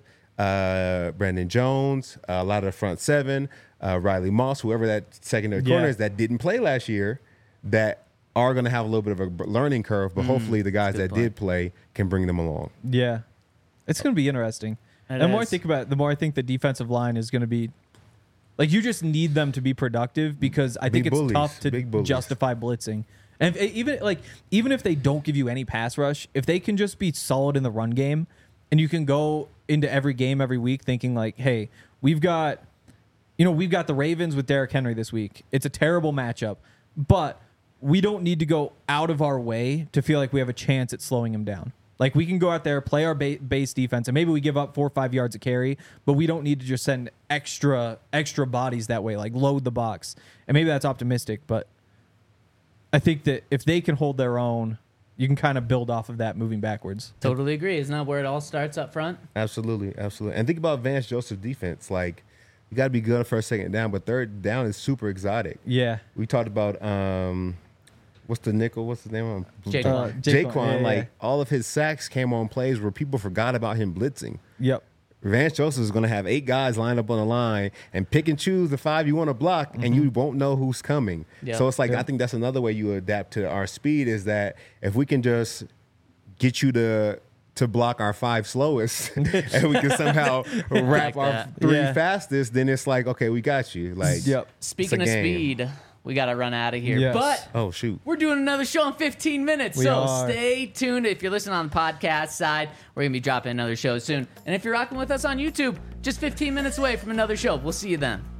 Speaker 3: uh, Brandon Jones, uh, a lot of the front seven, uh, Riley Moss, whoever that secondary
Speaker 4: Yeah.
Speaker 3: corner is that didn't play last year, that are going to have a little bit of a learning curve, but hopefully the guys that
Speaker 2: good point.
Speaker 3: did play can bring them along.
Speaker 4: Yeah. It's going to be interesting.
Speaker 2: It
Speaker 4: the more I
Speaker 2: is.
Speaker 4: think about it, the more I think the defensive line is going to be like you just need them to be productive because I think
Speaker 3: Big
Speaker 4: it's
Speaker 3: bullies.
Speaker 4: tough to
Speaker 3: Big bullies.
Speaker 4: justify blitzing. And if, even like even if they don't give you any pass rush, if they can just be solid in the run game and you can go into every game every week thinking like, "Hey, we've got you know, we've got the Ravens with Derrick Henry this week. It's a terrible matchup, but we don't need to go out of our way to feel like we have a chance at slowing him down. Like we can go out there, play our ba- base defense, and maybe we give up four or five yards a carry, but we don't need to just send extra extra bodies that way, like load the box. And maybe that's optimistic, but I think that if they can hold their own, you can kind of build off of that moving backwards.
Speaker 2: Totally agree. Isn't that where it all starts up front?
Speaker 3: Absolutely, absolutely. And think about Vance Joseph's defense. Like, you got to be good for a second down, but third down is super exotic.
Speaker 4: Yeah.
Speaker 3: We talked about um, what's the nickel? What's his name?
Speaker 2: Jaquan.
Speaker 4: Uh,
Speaker 3: Jaquan.
Speaker 4: yeah, yeah,
Speaker 3: like
Speaker 4: yeah.
Speaker 3: all of his sacks came on plays where people forgot about him blitzing.
Speaker 4: Yep.
Speaker 3: Vance Joseph is going to have eight guys lined up on the line and pick and choose the five you want to block, and you won't know who's coming.
Speaker 2: Yeah.
Speaker 3: So it's like
Speaker 4: Yeah.
Speaker 3: I think that's another way you adapt to our speed is that if we can just get you to to block our five slowest, and we can somehow wrap
Speaker 2: Like
Speaker 3: our
Speaker 2: that.
Speaker 3: three
Speaker 4: Yeah.
Speaker 3: fastest, then it's like, okay, we got you. Like,
Speaker 4: Yep.
Speaker 2: Speaking
Speaker 3: It's
Speaker 2: of
Speaker 3: a game.
Speaker 2: speed, we got to run out of here.
Speaker 4: Yes.
Speaker 2: But
Speaker 3: oh shoot.
Speaker 2: we're doing another show in fifteen minutes.
Speaker 4: We
Speaker 2: so
Speaker 4: are.
Speaker 2: stay tuned. If you're listening on the podcast side, we're going to be dropping another show soon. And if you're rocking with us on YouTube, just fifteen minutes away from another show. We'll see you then.